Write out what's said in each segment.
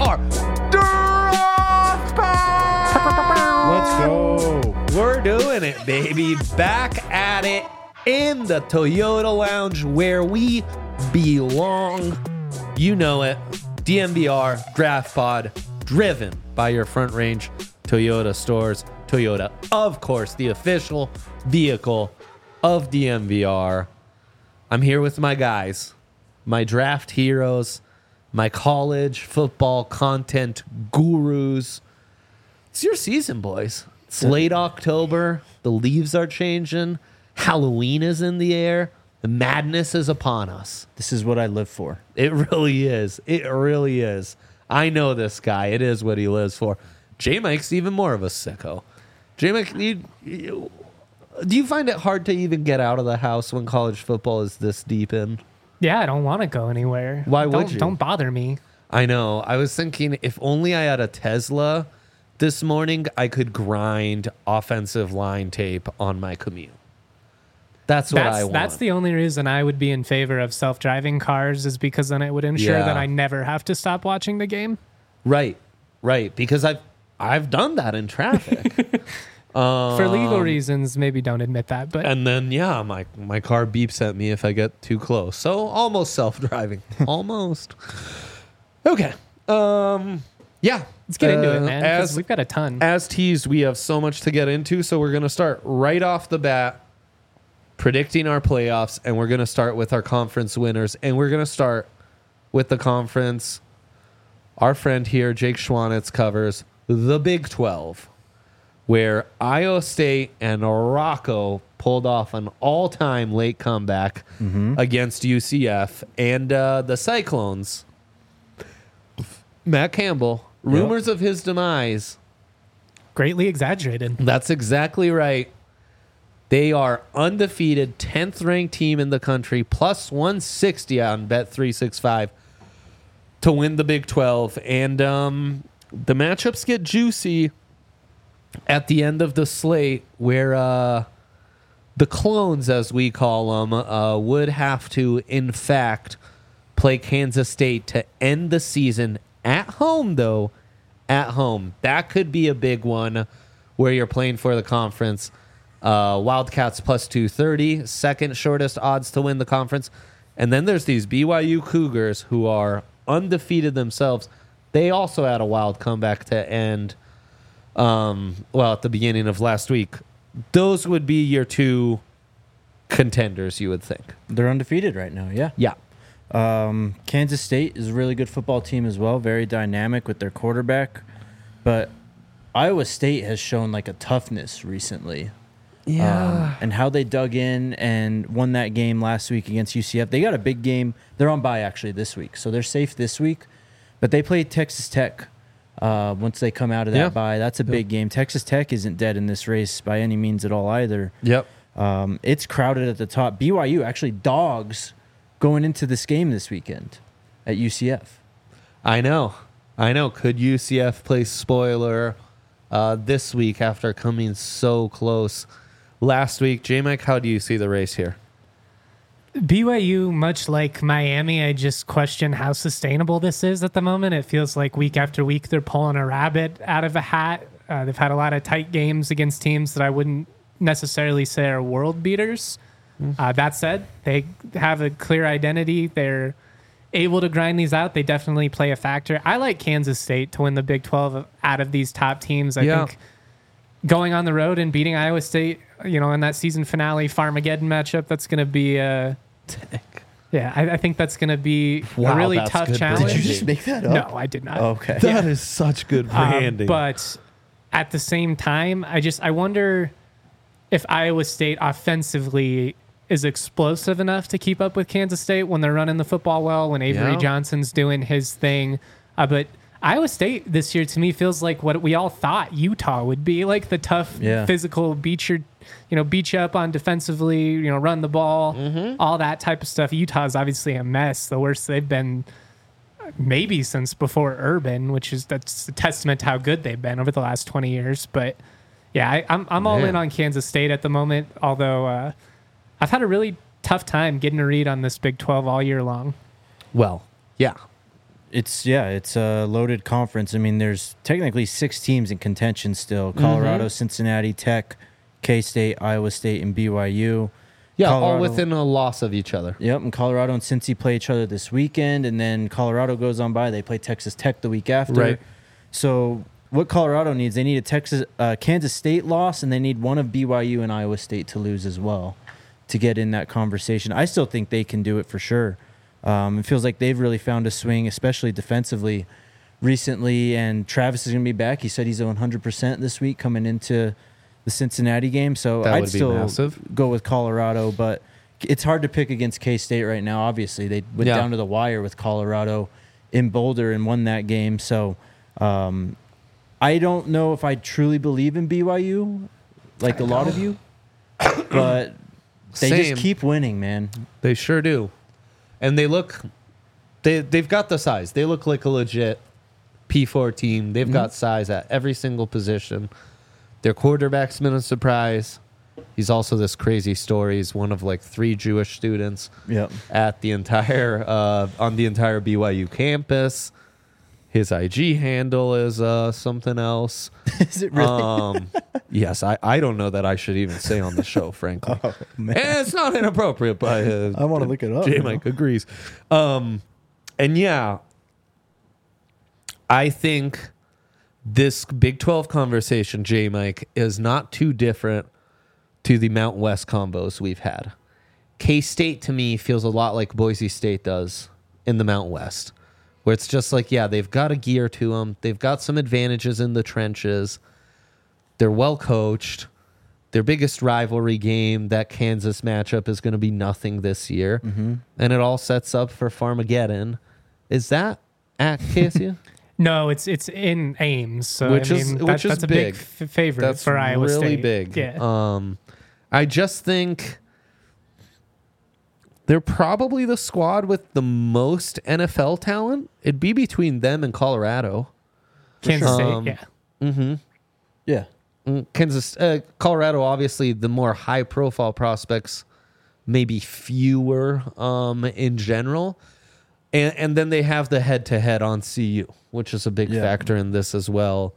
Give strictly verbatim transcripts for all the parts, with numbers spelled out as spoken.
R Draft Pod. Let's go. We're doing it, baby. Back at it in the Toyota Lounge where we belong. You know it. D M V R Draft Pod, driven by your Front Range Toyota stores. Toyota, of course, the official vehicle of D M V R. I'm here with my guys, my draft heroes, my college football content gurus. It's your season, boys. It's late October. The leaves are changing. Halloween is in the air. The madness is upon us. This is what I live for. It really is. It really is. I know this guy. It is what he lives for. J-Mike's even more of a sicko. J-Mike, you, you, do you find it hard to even get out of the house when college football is this deep in? Yeah, I don't want to go anywhere. Why would don't, you? Don't bother me. I know. I was thinking if only I had a Tesla this morning, I could grind offensive line tape on my commute. That's what that's, I want. That's the only reason I would be in favor of self-driving cars is because then it would ensure Yeah. that I never have to stop watching the game. Right, right. Because I've I've done that in traffic. um, For legal reasons, maybe don't admit that. But And then, yeah, my, my car beeps at me if I get too close. So almost self-driving. Almost. Okay. Um, yeah. let's get into Uh, it, man, because As, we've got a ton. as teased, we have so much to get into. So we're going to start right off the bat predicting our playoffs. And we're going to start with our conference winners. And we're going to start with the conference our friend here, Jake Schwanitz, covers the Big twelve, where Iowa State and Rocco pulled off an all-time late comeback against U C F. And uh, the Cyclones, Matt Campbell, rumors of his demise. Greatly exaggerated. That's exactly right. They are undefeated, tenth-ranked team in the country, plus one sixty on Bet three sixty-five to win the Big twelve. And um, the matchups get juicy at the end of the slate where uh, the clones, as we call them, uh, would have to, in fact, play Kansas State to end the season at home, though. At home. That could be a big one where you're playing for the conference. Uh, Wildcats plus two thirty, second shortest odds to win the conference. And then there's these B Y U Cougars who are undefeated themselves. They also had a wild comeback to end, um, well, at the beginning of last week. Those would be your two contenders, you would think. They're undefeated right now, yeah. Yeah. Um, Kansas State is a really good football team as well, very dynamic with their quarterback. But Iowa State has shown like a toughness recently. Um, and how they dug in and won that game last week against U C F. They got a big game. They're on bye actually this week, so they're safe this week. But they play Texas Tech uh, once they come out of that Yeah. bye. That's a big game. Texas Tech isn't dead in this race by any means at all either. Yep. Um, it's crowded at the top. B Y U actually dogs going into this game this weekend at U C F. I know. I know. Could U C F play spoiler uh, this week after coming so close last week? J-Mike, how do you see the race here? B Y U, much like Miami, I just question how sustainable this is at the moment. It feels like week after week they're pulling a rabbit out of a hat. Uh, they've had a lot of tight games against teams that I wouldn't necessarily say are world beaters. Uh, that said, they have a clear identity. They're able to grind these out. They definitely play a factor. I like Kansas State to win the Big twelve out of these top teams. I Yeah. think going on the road and beating Iowa State, you know, in that season finale Farmageddon matchup, that's going to be a... Yeah, I, I think that's going to be Wow, a really that's tough good challenge. branding. Did you just make that up? No, I did not. Okay. That is such good Um, branding. but at the same time, I just I wonder if Iowa State offensively is explosive enough to keep up with Kansas State when they're running the football well, when Avery Yeah. Johnson's doing his thing. Uh, but Iowa State this year to me feels like what we all thought Utah would be, like the tough, Yeah. physical beat your, you know, beat you up on defensively, you know, run the ball, Mm-hmm. all that type of stuff. Utah's obviously a mess, the worst they've been maybe since before Urban, which is that's a testament to how good they've been over the last twenty years. But yeah, I, I'm I'm all Man. in on Kansas State at the moment. Although uh, I've had a really tough time getting a read on this Big twelve all year long. Well, yeah. It's yeah, it's a loaded conference. I mean, there's technically six teams in contention still: Colorado, Mm-hmm. Cincinnati, Tech, K-State, Iowa State, and B Y U. Yeah, all Colorado- within a loss of each other. Yep, and Colorado and Cincy play each other this weekend, and then Colorado goes on by. They play Texas Tech the week after. Right. So what Colorado needs, they need a Texas, uh, Kansas State loss, and they need one of B Y U and Iowa State to lose as well to get in that conversation. I still think they can do it for sure. Um, it feels like they've really found a swing, especially defensively recently, and Travis is going to be back. He said he's one hundred percent this week coming into the Cincinnati game, so That I'd would be still massive. go with Colorado, but it's hard to pick against K-State right now. Obviously, they went Yeah. down to the wire with Colorado in Boulder and won that game, so um, I don't know if I truly believe in B Y U, like a lot of you, but they Same. just keep winning, man. They sure do. And they look, they, they've got the size. They look like a legit P four team. They've got size at every single position. Their quarterback's been a surprise. He's also this crazy story. He's one of like three Jewish students Yep. at the entire, uh, on the entire B Y U campus. His I G handle is uh, something else. Is it really? Um, yes, I, I don't know that I should even say on the show, frankly. Oh, man. And it's not inappropriate, but uh, I want to look it up. J you Mike know? agrees. Um, and yeah, I think this Big twelve conversation, J Mike, is not too different to the Mountain West combos we've had. K-State to me feels a lot like Boise State does in the Mountain West, where it's just like, yeah, they've got a gear to them. They've got some advantages in the trenches. They're well coached. Their biggest rivalry game, that Kansas matchup, is going to be nothing this year. Mm-hmm. And it all sets up for Farmageddon. Is that at K S U? No, it's it's in Ames, so Which I is- mean, which that- is that's a big. big f- favorite That's for Iowa really State. big. Yeah. Um, I just think they're probably the squad with the most N F L talent. It'd be between them and Colorado. Kansas State, Um, yeah. Mm-hmm. Yeah. Mm, Kansas, uh, Colorado, obviously the more high-profile prospects, maybe fewer um, in general, and and then they have the head-to-head on C U, which is a big Yeah. factor in this as well.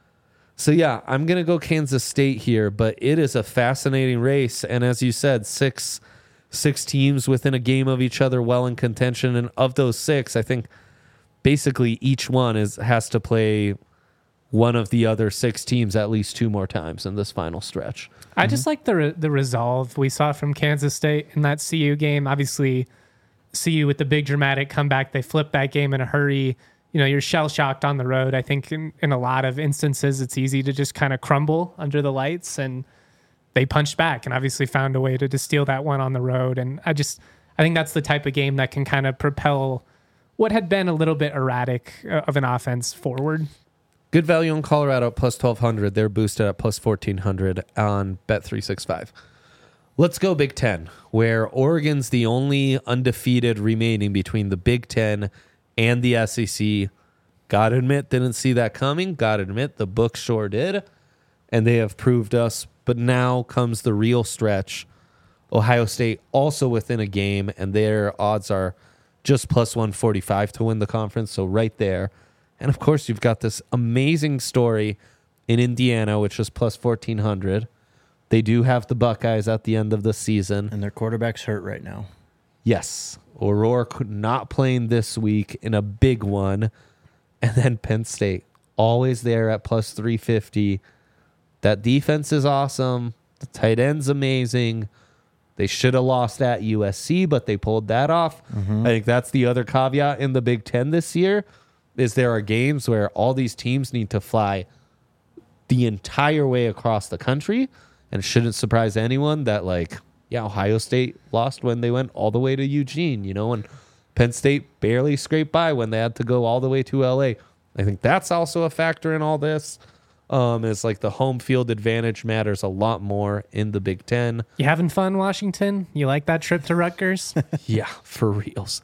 So yeah, I'm gonna go Kansas State here, but it is a fascinating race, and as you said, six six teams within a game of each other, well in contention, and of those six, I think basically each one is has to play one of the other six teams at least two more times in this final stretch. I just like the re- the resolve we saw from Kansas State in that C U game. Obviously, C U with the big dramatic comeback, they flipped that game in a hurry. You know, you're shell shocked on the road. I think in, in a lot of instances, it's easy to just kind of crumble under the lights, and they punched back and obviously found a way to, to steal that one on the road. And I just, I think that's the type of game that can kind of propel what had been a little bit erratic uh, of an offense forward. Good value on Colorado at plus twelve hundred. They're boosted at plus fourteen hundred on Bet three sixty-five. Let's go Big Ten, where Oregon's the only undefeated remaining between the Big Ten and the S E C. Gotta admit, didn't see that coming. Gotta admit, the book sure did. And they have proved us. But now comes the real stretch. Ohio State also within a game, and their odds are just plus one forty-five to win the conference. So right there. And of course, you've got this amazing story in Indiana, which is plus fourteen hundred. They do have the Buckeyes at the end of the season. And their quarterback's hurt right now. Yes. O'Rourke not playing this week in a big one. And then Penn State, always there at plus three fifty. That defense is awesome. The tight end's amazing. They should have lost at U S C, but they pulled that off. I think that's the other caveat in the Big Ten this year, is there are games where all these teams need to fly the entire way across the country. And it shouldn't surprise anyone that, like, yeah, Ohio State lost when they went all the way to Eugene, you know, and Penn State barely scraped by when they had to go all the way to L A. I think that's also a factor in all this. Um, is like the home field advantage matters a lot more in the Big Ten. You having fun, Washington? You like that trip to Rutgers? Yeah, for reals.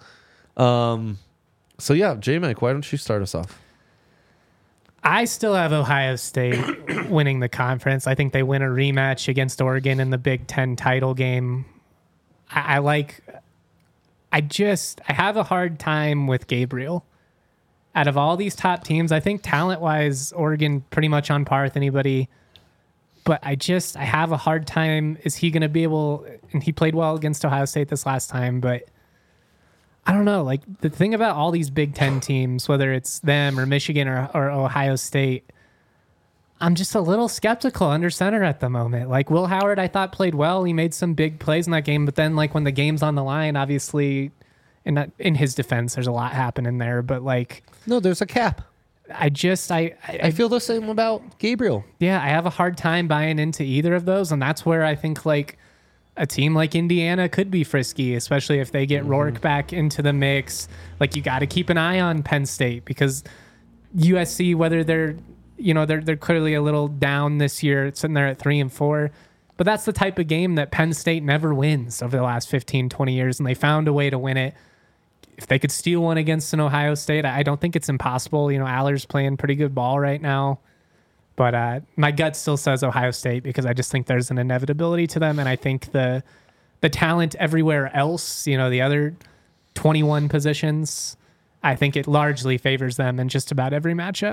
Um, so yeah, J-Mike, why don't you start us off? I still have Ohio State winning the conference. I think they win a rematch against Oregon in the Big Ten title game. I, I like, I just, I have a hard time with Gabriel. out of all these top teams, I think talent-wise, Oregon pretty much on par with anybody. But I just, I have a hard time. Is he going to be able, and he played well against Ohio State this last time, but I don't know. Like, the thing about all these Big Ten teams, whether it's them or Michigan or, or Ohio State, I'm just a little skeptical under center at the moment. Like, Will Howard, I thought played well. He made some big plays in that game, but then, like, when the game's on the line, obviously, in, that, in his defense, there's a lot happening there, but, like... No, there's a cap. I just, I, I... I feel the same about Gabriel. Yeah, I have a hard time buying into either of those, and that's where I think, like, a team like Indiana could be frisky, especially if they get mm-hmm. Rourke back into the mix. Like, you got to keep an eye on Penn State, because U S C, whether they're... You know, they're they're clearly a little down this year, sitting there at three and four. But that's the type of game that Penn State never wins over the last fifteen, twenty years, and they found a way to win it. If they could steal one against an Ohio State, I don't think it's impossible. You know, Aller's playing pretty good ball right now. But uh, my gut still says Ohio State, because I just think there's an inevitability to them, and I think the the talent everywhere else, you know, the other twenty-one positions, I think it largely favors them in just about every matchup.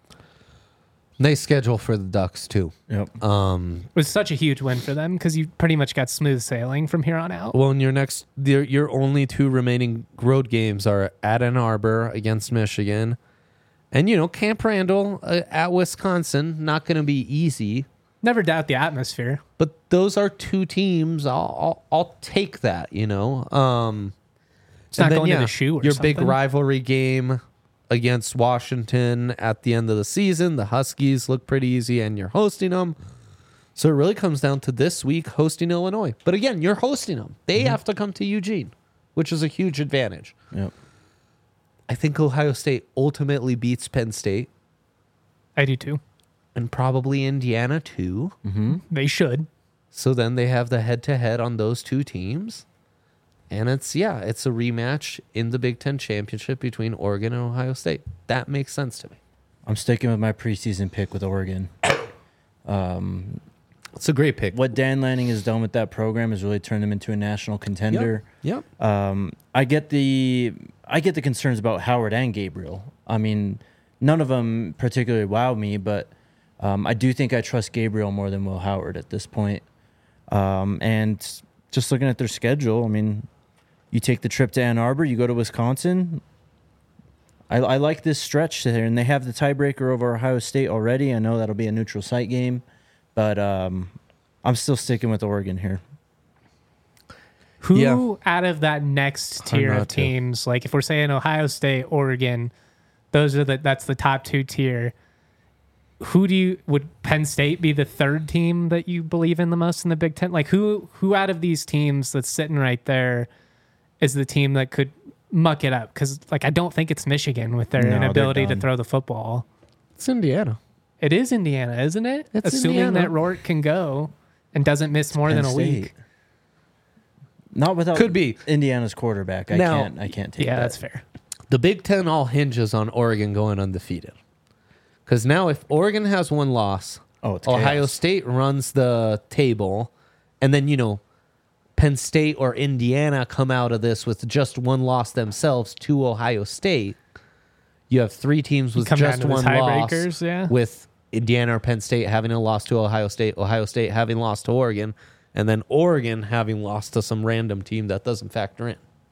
Nice schedule for the Ducks, too. Yep. Um, it was such a huge win for them, because you pretty much got smooth sailing from here on out. Well, in your next, your, your only two remaining road games are at Ann Arbor against Michigan, and, you know, Camp Randall uh, at Wisconsin. Not going to be easy. Never doubt the atmosphere. But those are two teams. I'll I'll, I'll take that, you know. Um, it's not then, going yeah, to the shoe or your something. Big rivalry game against Washington at the end of the season. The Huskies look pretty easy, and you're hosting them. So it really comes down to this week hosting Illinois. But again, you're hosting them. They mm-hmm. have to come to Eugene, which is a huge advantage. Yep. I think Ohio State ultimately beats Penn State. I do too. And probably Indiana too. Mm-hmm. They should. So then they have the head-to-head on those two teams. And it's, yeah, it's a rematch in the Big Ten Championship between Oregon and Ohio State. That makes sense to me. I'm sticking with my preseason pick with Oregon. Um, it's a great pick. What Dan Lanning has done with that program has really turned them into a national contender. Yep. yep. Um, I get the I get the concerns about Howard and Gabriel. I mean, none of them particularly wow me, but um, I do think I trust Gabriel more than Will Howard at this point. Um, and just looking at their schedule, I mean, you take the trip to Ann Arbor, you go to Wisconsin. I, I like this stretch there, and they have the tiebreaker over Ohio State already. I know that'll be a neutral site game, but um, I'm still sticking with Oregon here. Who yeah. out of that next tier of teams, to. like if we're saying Ohio State, Oregon, those are the that's the top two tier. Who do you would Penn State be the third team that you believe in the most in the Big Ten? Like who who out of these teams that's sitting right there is the team that could muck it up? Because like I don't think it's Michigan with their no, inability to throw the football. It's Indiana. It is Indiana, isn't it? It's Assuming Indiana. that Rourke can go and doesn't miss more Penn than a State. week. Not without Could be Indiana's quarterback. I now, can't. I can't take. Yeah, that. that's fair. The Big Ten all hinges on Oregon going undefeated. Because now, if Oregon has one loss, oh, it's Ohio chaos. State runs the table, and then you know, Penn State or Indiana come out of this with just one loss themselves to Ohio State. You have three teams with come just down to one the loss, tiebreakers, yeah. with Indiana or Penn State having a loss to Ohio State, Ohio State having lost to Oregon, and then Oregon having lost to some random team that doesn't factor in.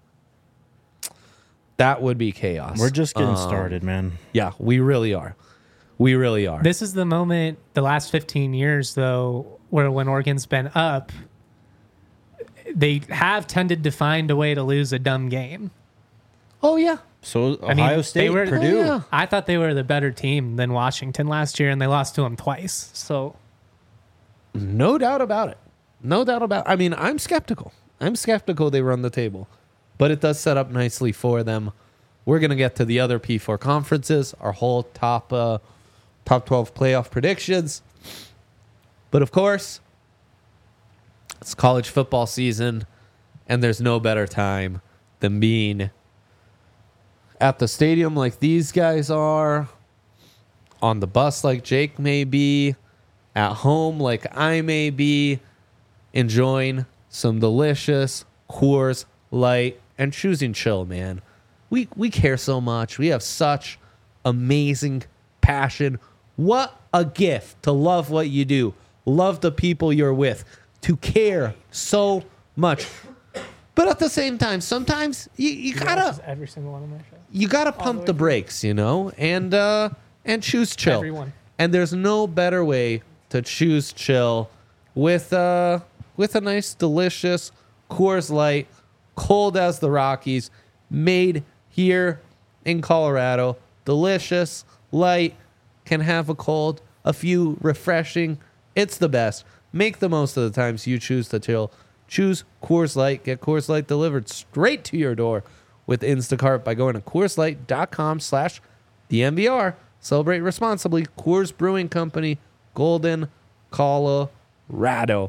That would be chaos. We're just getting Um, started, man. Yeah, we really are. We really are. This is the moment, the last fifteen years, though, where when Oregon's been up, they have tended to find a way to lose a dumb game. Oh, yeah. So Ohio I mean, State, they were, Purdue. Oh, yeah. I thought they were the better team than Washington last year, and they lost to them twice. So, No doubt about it. No doubt about it. I mean, I'm skeptical. I'm skeptical they run the table. But it does set up nicely for them. We're going to get to the other P four conferences, our whole top uh, top twelve playoff predictions. But of course, it's college football season, and there's no better time than being at the stadium like these guys are, on the bus like Jake may be, at home like I may be, enjoying some delicious Coors Light and choosing chill, man. We we care so much. We have such amazing passion. What a gift to love what you do, love the people you're with, to care so much. But at the same time, sometimes you, you gotta every single one of my shows. you gotta pump the brakes, you know, and uh, and choose chill. Everyone. And there's no better way to choose chill with uh with a nice, delicious Coors Light, cold as the Rockies, made here in Colorado. Delicious, light, can have a cold, a few refreshing. It's the best. Make the most of the times you choose to chill. Choose Coors Light. Get Coors Light delivered straight to your door with Instacart by going to CoorsLight.com slash DNVR. Celebrate responsibly. Coors Brewing Company, Golden, Colorado.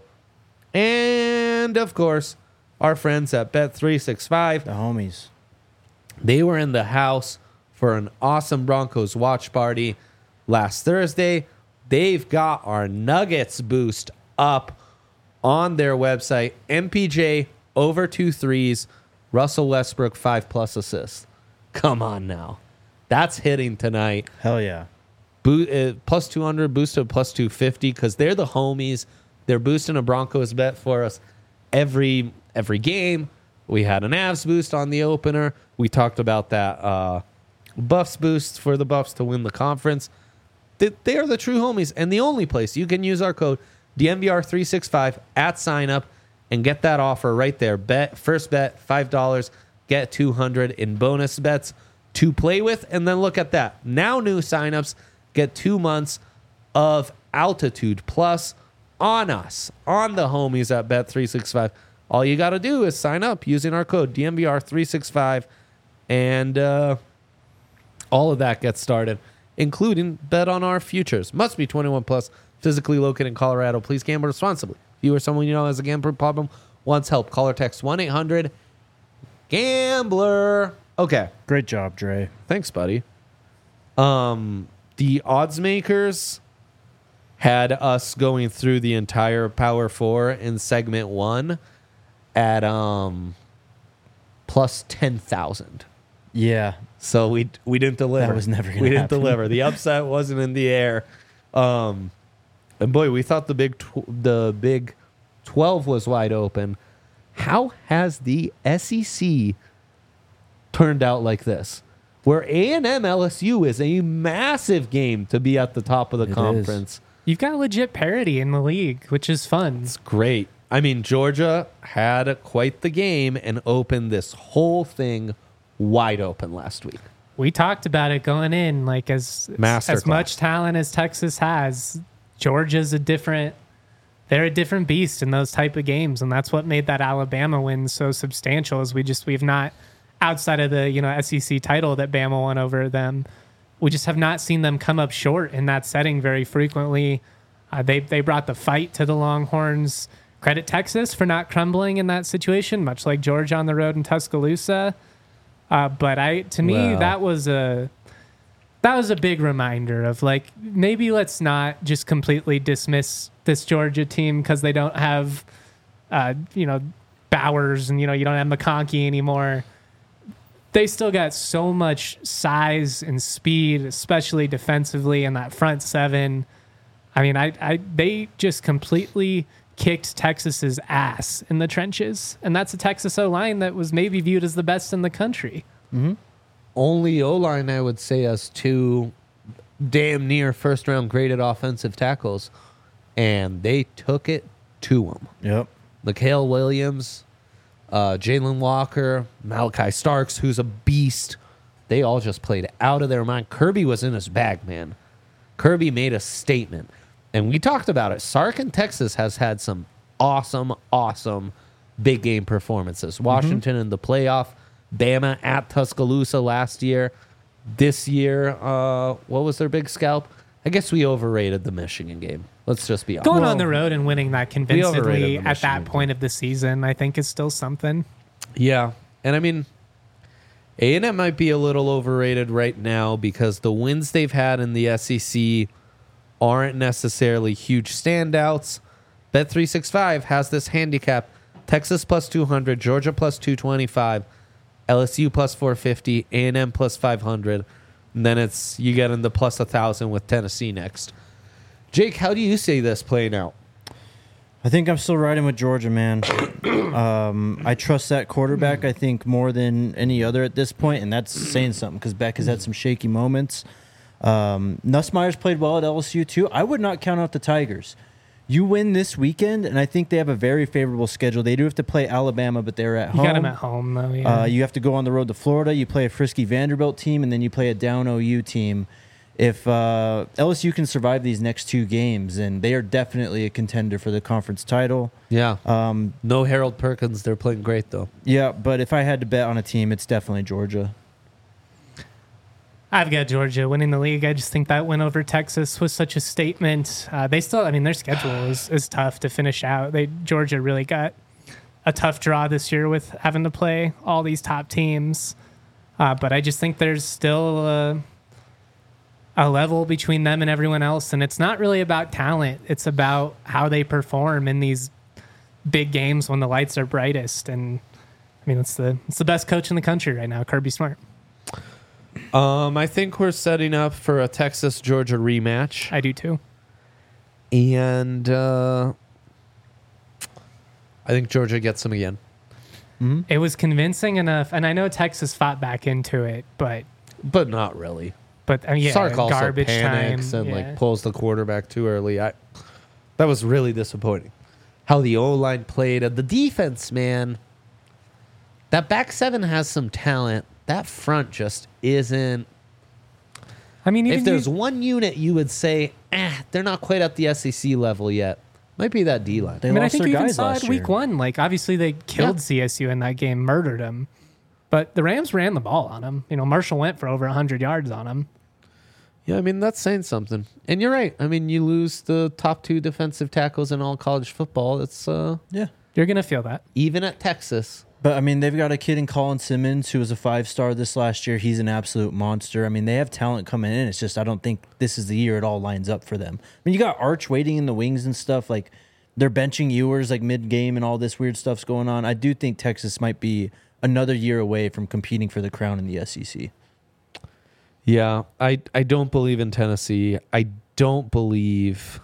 And, of course, our friends at Bet three sixty-five. The homies. They were in the house for an awesome Broncos watch party last Thursday. They've got our Nuggets boost up on their website. M P J over two threes. Russell Westbrook five plus assists. Come on now. That's hitting tonight. Hell yeah. Bo- uh, plus two hundred, boosted plus two fifty because they're the homies. They're boosting a Broncos bet for us every every game. We had an Avs boost on the opener. We talked about that uh, Buffs boost for the Buffs to win the conference. They, they are the true homies, and the only place you can use our code D N V R three sixty-five at sign up and get that offer right there. Bet first bet five dollars, get two hundred in bonus bets to play with, and then look at that. Now new signups get two months of Altitude Plus on us, on the homies at Bet three sixty-five. All you got to do is sign up using our code D N V R three sixty-five, and uh, all of that gets started, including bet on our futures. Must be twenty-one plus, physically located in Colorado. Please gamble responsibly. If you or someone you know has a gambling problem, wants help, call or text one eight hundred gambler. Okay. Great job, Dre. Thanks, buddy. Um, the odds makers had us going through the entire Power Four in segment one at um plus ten thousand. Yeah. So we we didn't deliver. That was never gonna We didn't happen. deliver. The upset wasn't in the air. Um, and boy, we thought the big tw- the big twelve was wide open. How has the S E C turned out like this? Where A and M L S U is a massive game to be at the top of the It conference. You've got legit parity in the league, which is fun. It's great. I mean, Georgia had quite the game and opened this whole thing wide open last week. We talked about it going in, like as Masterclass. as much talent as Texas has, Georgia's a different. They're a different beast in those type of games, and that's what made that Alabama win so substantial. Is we just we've not outside of the you know S E C title that Bama won over them, we just have not seen them come up short in that setting very frequently. Uh, they they brought the fight to the Longhorns. Credit Texas for not crumbling in that situation, much like Georgia on the road in Tuscaloosa. Uh, but I, to me, Wow. that was a that was a big reminder of like maybe let's not just completely dismiss this Georgia team because they don't have, uh, you know, Bowers and you know you don't have McConkey anymore. They still got so much size and speed, especially defensively in that front seven. I mean, I, I they just completely kicked Texas's ass in the trenches, and that's a Texas O-line that was maybe viewed as the best in the country. Only O-line, I would say, has two damn near first-round graded offensive tackles, and they took it to them. Yep. Mikhail Williams, uh, Jalen Walker, Malachi Starks, who's a beast. They all just played out of their mind. Kirby was in his bag, man. Kirby made a statement. And we talked about it. Sark in Texas has had some awesome, awesome big game performances. Washington in the playoff. Bama at Tuscaloosa last year. This year, uh, what was their big scalp? I guess we overrated the Michigan game. Let's just be honest. Going on the road and winning that convincingly overrated the at that Michigan point of the season, I think is still something. Yeah. And I mean, A and M might be a little overrated right now because the wins they've had in the S E C aren't necessarily huge standouts. Bet three sixty-five has this handicap. Texas plus two hundred, Georgia plus two twenty-five, L S U plus four fifty, A and M plus five hundred. And then it's you get into plus a thousand with Tennessee next. Jake, how do you see this playing out? I think I'm still riding with Georgia, man. um, I trust that quarterback, I think, more than any other at this point, and that's saying something because Beck has had some shaky moments. Um, Nussmeier's played well at L S U, too. I would not count out the Tigers. You win this weekend, and I think they have a very favorable schedule. They do have to play Alabama, but they're at You home. got them at home, though. Yeah. Uh, you have to go on the road to Florida. You play a frisky Vanderbilt team, and then you play a down O U team. If uh, L S U can survive these next two games, then they are definitely a contender for the conference title. Yeah. Um, No Harold Perkins. They're playing great, though. yeah, but if I had to bet on a team, it's definitely Georgia. I've got Georgia winning the league. I just think that win over Texas was such a statement. Uh, they still, I mean, their schedule is, is tough to finish out. They Georgia really got a tough draw this year with having to play all these top teams. Uh, but I just think there's still a, a level between them and everyone else. And it's not really about talent. It's about how they perform in these big games when the lights are brightest. And I mean, it's the, it's the best coach in the country right now, Kirby Smart. Um, I think we're setting up for a Texas Georgia rematch, I do too. and uh, I think Georgia gets them again. It was convincing enough, and I know Texas fought back into it, but But not really. but uh, yeah, Sark also garbage panics time and yeah. like pulls the quarterback too early. I that was really disappointing. How the O line played and the defense, man. That back seven has some talent. That front just isn't. I mean, even If there's you, one unit you would say, eh, they're not quite at the S E C level yet, might be that D line. They I mean, I lost think their you even guys saw last it week year. one. Like, obviously, they killed Yeah. C S U in that game, murdered them, but the Rams ran the ball on them. You know, Marshall went for over one hundred yards on them. Yeah, I mean, that's saying something. And you're right. I mean, you lose the top two defensive tackles in all college football. It's uh, Yeah. You're gonna feel that. even at Texas. But, I mean, they've got a kid in Colin Simmons who was a five-star this last year. He's an absolute monster. I mean, they have talent coming in. It's just I don't think this is the year it all lines up for them. I mean, you got Arch waiting in the wings and stuff. Like, they're benching Ewers, like, mid-game and all this weird stuff's going on. I do think Texas might be another year away from competing for the crown in the S E C. Yeah, I, I don't believe in Tennessee. I don't believe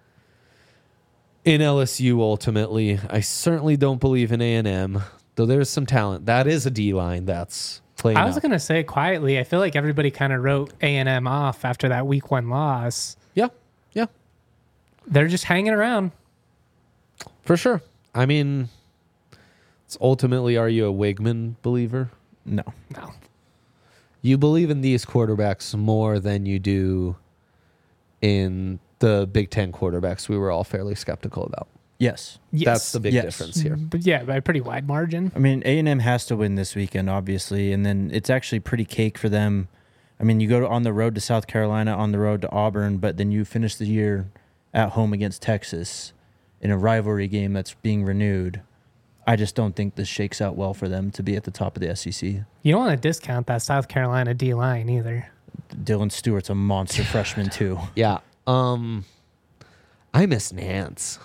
in L S U ultimately. I certainly don't believe in A and M, though there's some talent. That is a D line that's playing I was out. gonna say quietly. I feel like everybody kind of wrote A and M off after that week one loss. Yeah, yeah, They're just hanging around. for sure. I mean, it's ultimately, are you a Wigman believer? No. No. You believe in these quarterbacks more than you do in the Big Ten quarterbacks we were all fairly skeptical about. Yes. Yes. That's the big Yes. difference here. But yeah, by a pretty wide margin. I mean, A and M has to win this weekend, obviously, and then it's actually pretty cake for them. I mean, you go to, on the road to South Carolina, on the road to Auburn, but then you finish the year at home against Texas in a rivalry game that's being renewed. I just don't think this shakes out well for them to be at the top of the S E C. You don't want to discount that South Carolina D line either. Dylan Stewart's a monster freshman, too. Yeah. Um, I miss Nance.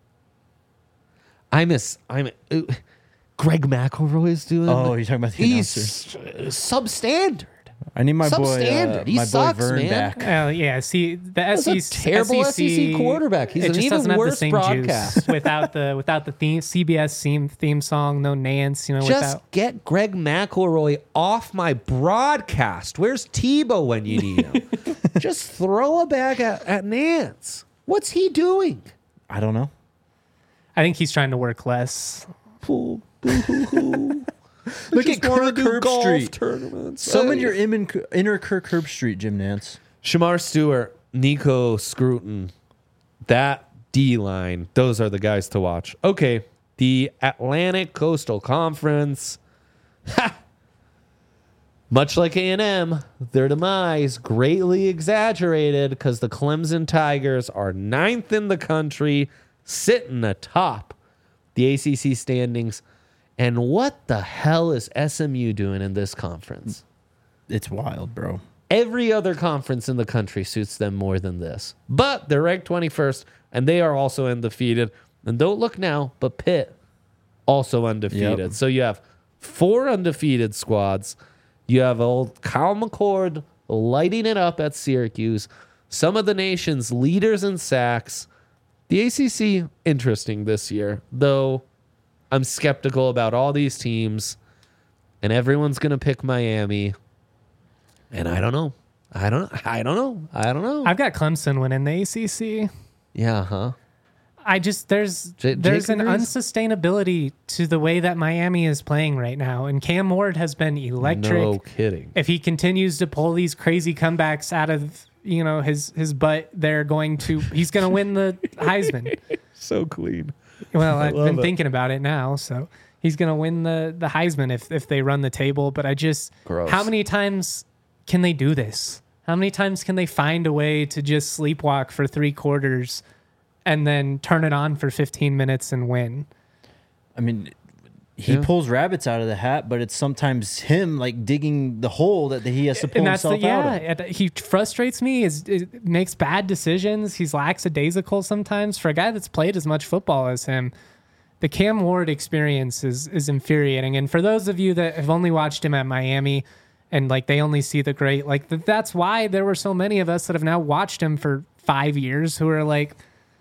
I miss. I'm. Uh, Greg McElroy is doing. Oh, you're talking about the He's announcer. uh, substandard. I need my boy, uh, substandard. He my boy sucks, Vern man. back. Uh, yeah, see the That's a S E C terrible S E C quarterback. He's it an just even doesn't have the worse same broadcast. juice without the without the theme C B S theme theme song. No Nance, you know. Just without get Greg McElroy off my broadcast. Where's Tebow when you need him? Just throw a bag at, at Nance. What's he doing? I don't know. I think he's trying to work less. Look at Kirk Herbstreit. tournaments. Summon Hey. your inner, inner Kirk Herbstreit, Jim Nance. Shamar Stewart, Nico Scruton, that D line, those are the guys to watch. Okay, the Atlantic Coastal Conference. Ha! Much like A and M, their demise greatly exaggerated because the Clemson Tigers are ninth in the country, sitting atop the A C C standings. And what the hell is S M U doing in this conference? It's wild, bro. Every other conference in the country suits them more than this. But they're ranked twenty-first, and they are also undefeated. And don't look now, but Pitt also undefeated. Yep. So you have four undefeated squads. You have old Kyle McCord lighting it up at Syracuse. Some of the nation's leaders in sacks. The A C C, interesting this year, though I'm skeptical about all these teams, and everyone's going to pick Miami. And I don't know. I don't I don't know. I don't know. I've got Clemson winning the A C C. Yeah, huh? I just there's J- there's Jake an agrees? unsustainability to the way that Miami is playing right now, and Cam Ward has been electric. No kidding. If he continues to pull these crazy comebacks out of you know his his butt, they're going to he's going to win the Heisman. So clean. Well, I've love been it. thinking about it now, so he's going to win the the Heisman if if they run the table. But I just Gross. how many times can they do this? How many times can they find a way to just sleepwalk for three quarters and then turn it on for fifteen minutes and win? I mean, he Yeah. pulls rabbits out of the hat, but it's sometimes him like digging the hole that he has to pull And that's the himself yeah. out of. it- He frustrates me. Is it makes bad decisions. He's lackadaisical sometimes for a guy that's played as much football as him. The Cam Ward experience is is infuriating. And for those of you that have only watched him at Miami, and like they only see the great, like th- that's why there were so many of us that have now watched him for five years who are like,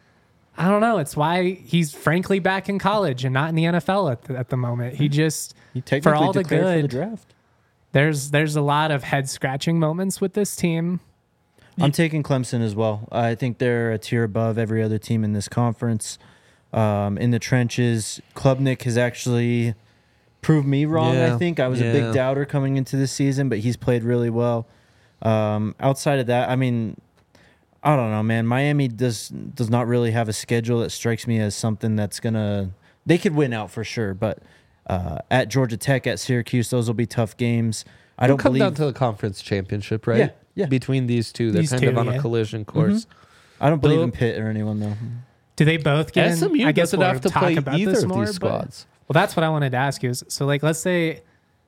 I don't know. It's why he's frankly back in college and not in the N F L at the, at the moment. He just He for technically all the declared for the good. draft. There's there's a lot of head scratching moments with this team. I'm taking Clemson as well. I think they're a tier above every other team in this conference. Um, in the trenches, Klubnik has actually proved me wrong. Yeah, I think I was a yeah. big doubter coming into this season, but he's played really well. Um, outside of that, I mean, I don't know, man. Miami does does not really have a schedule that strikes me as something that's gonna. They could win out for sure, but uh, at Georgia Tech, at Syracuse, those will be tough games. I It'll don't come believe. down to the conference championship, right? Yeah, yeah. Between these two, they're These kind two, of on yeah. a collision course. I don't believe Though- in Pitt or anyone though. Do they both get S M U in? I guess doesn't we'll have to talk play about either this of more, these but- squads. Well, that's what I wanted to ask you. Is, so, like, let's say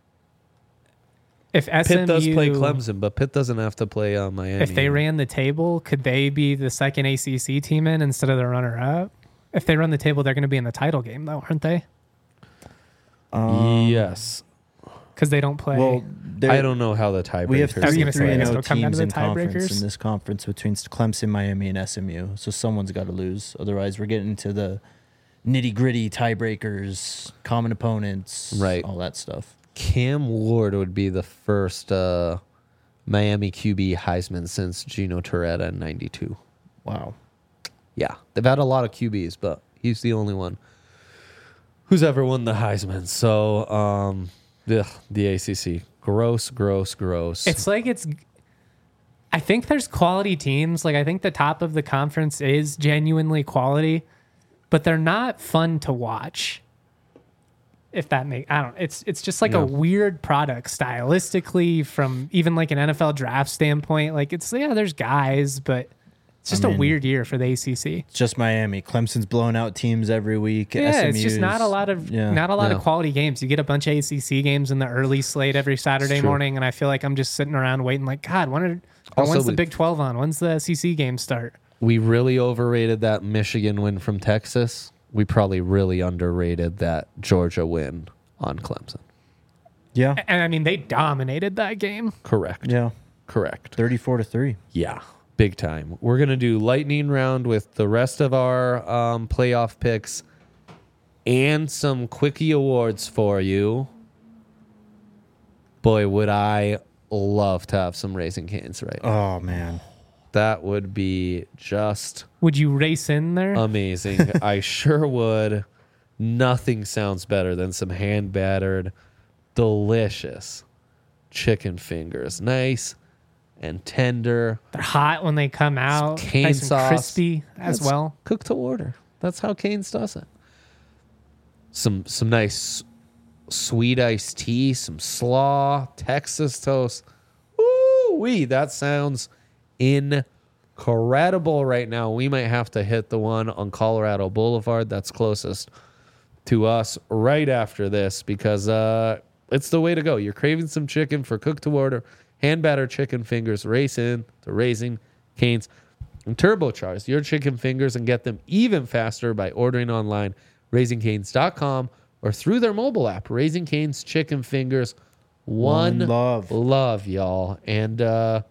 if S M U Pitt does play Clemson, but Pitt doesn't have to play uh, Miami. if they ran the table, could they be the second A C C team in instead of the runner-up? If they run the table, they're going to be in the title game, though, aren't they? Um, yes. Because they don't play. Well, there- I don't know how the tiebreakers. We have I was three gonna say, three I and guess O it'll come down to teams the in conference tiebreakers. in this conference between Clemson, Miami, and S M U. So someone's got to lose. Otherwise, we're getting into the nitty gritty tiebreakers, common opponents, Right. all that stuff. Cam Ward would be the first uh, Miami Q B Heisman since Gino Torretta in ninety-two. Wow. Yeah, they've had a lot of Q Bs, but he's the only one who's ever won the Heisman. So, um, ugh, the A C C, gross, gross, gross. it's like it's. I think there's quality teams. Like, I think the top of the conference is genuinely quality, but they're not fun to watch. If that make I don't it's it's just like No. a weird product stylistically from even like an N F L draft standpoint. Like it's yeah, there's guys, but it's just I a mean- weird year for the A C C. It's just Miami. Clemson's blowing out teams every week. Yeah, it's S M U's, just not a lot of yeah. not a lot Yeah. of quality games. You get a bunch of A C C games in the early slate every Saturday true. morning, and I feel like I'm just sitting around waiting. Like God, when are, Also, when's the we- Big twelve on? When's the S E C games start? we really overrated that Michigan win from Texas. We probably really underrated that Georgia win on Clemson. Yeah. And I mean, they dominated that game. Correct. Yeah. Correct. thirty-four to three. Yeah, big time. We're going to do lightning round with the rest of our um, playoff picks and some quickie awards for you. Boy, would I love to have some Raising Cane's right now. Oh man. That would be just Would you race in there? amazing. I sure would. Nothing sounds better than some hand battered, delicious chicken fingers. Nice and tender. They're hot when they come out, cane nice and sauce. crispy as That's well. Cooked to order. That's how Cane's does it. Some some nice sweet iced tea, some slaw, Texas toast. Ooh wee, that sounds incredible right now. We might have to hit the one on Colorado Boulevard that's closest to us right after this because uh, it's the way to go. You're craving some chicken for cooked to order, hand battered chicken fingers. Race in to Raising Cane's and turbocharge your chicken fingers and get them even faster by ordering online, raising canes dot com, or through their mobile app. Raising Cane's chicken fingers One, One love. love, y'all. And uh,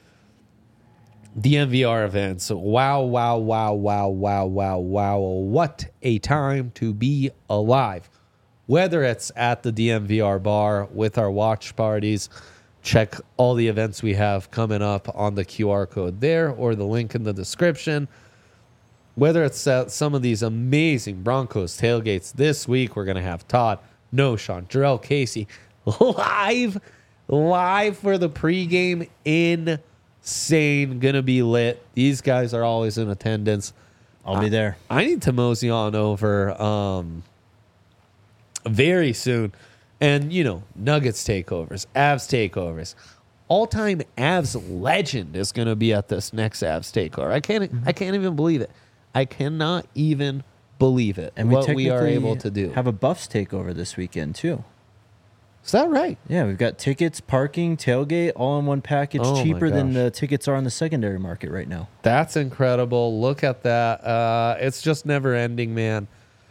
D M V R events. Wow, wow, wow, wow, wow, wow, wow. What a time to be alive. Whether it's at the D M V R bar with our watch parties, check all the events we have coming up on the Q R code there or the link in the description. Whether it's at some of these amazing Broncos tailgates this week, we're going to have Todd, No Sean, Jarrell Casey live, live for the pregame. Insane. Going to be lit. These guys are always in attendance. I'll be there. I need to mosey on over um, very soon. And, you know, Nuggets takeovers, Avs takeovers. All-time Avs legend is going to be at this next Avs takeover. I can't I can't even believe it. I cannot even believe it, And we what we are technically able to do. have a Buffs takeover this weekend, too. Is that right? Yeah, we've got tickets, parking, tailgate, all in one package, Oh my cheaper than gosh. the tickets are on the secondary market right now. That's incredible. Look at that. Uh, it's just never ending, man.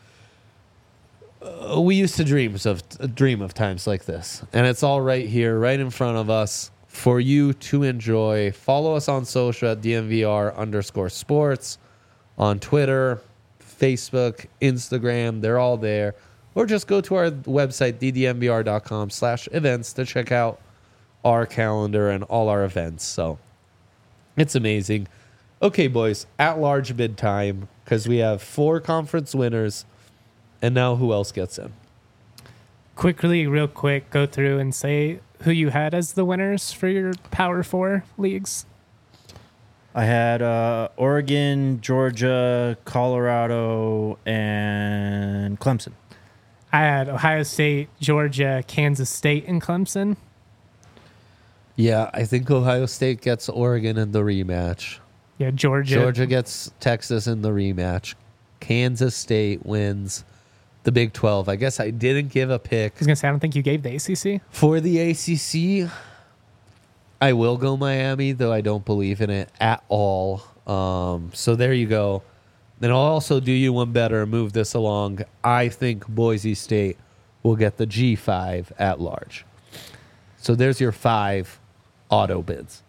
Uh, we used to dream of dream of times like this, and it's all right here, right in front of us for you to enjoy. Follow us on social at D M V R underscore sports on Twitter, Facebook, Instagram. They're all there. Or just go to our website, d d m v r dot com slash events to check out our calendar and all our events. So it's amazing. Okay, boys, at large bid time, because we have four conference winners. And now who else gets in? Quickly, real quick, go through and say who you had as the winners for your Power Four leagues. I had uh, Oregon, Georgia, Colorado, and Clemson. I had Ohio State, Georgia, Kansas State, and Clemson. Yeah, I think Ohio State gets Oregon in the rematch. Yeah, Georgia. Georgia gets Texas in the rematch. Kansas State wins the Big twelve. I guess I didn't give a pick I was going to say, I don't think you gave the A C C. for the A C C. I will go Miami, though I don't believe in it at all. Um, so there you go. Then I'll also do you one better and move this along. I think Boise State will get the G five at large. So there's your five auto bids.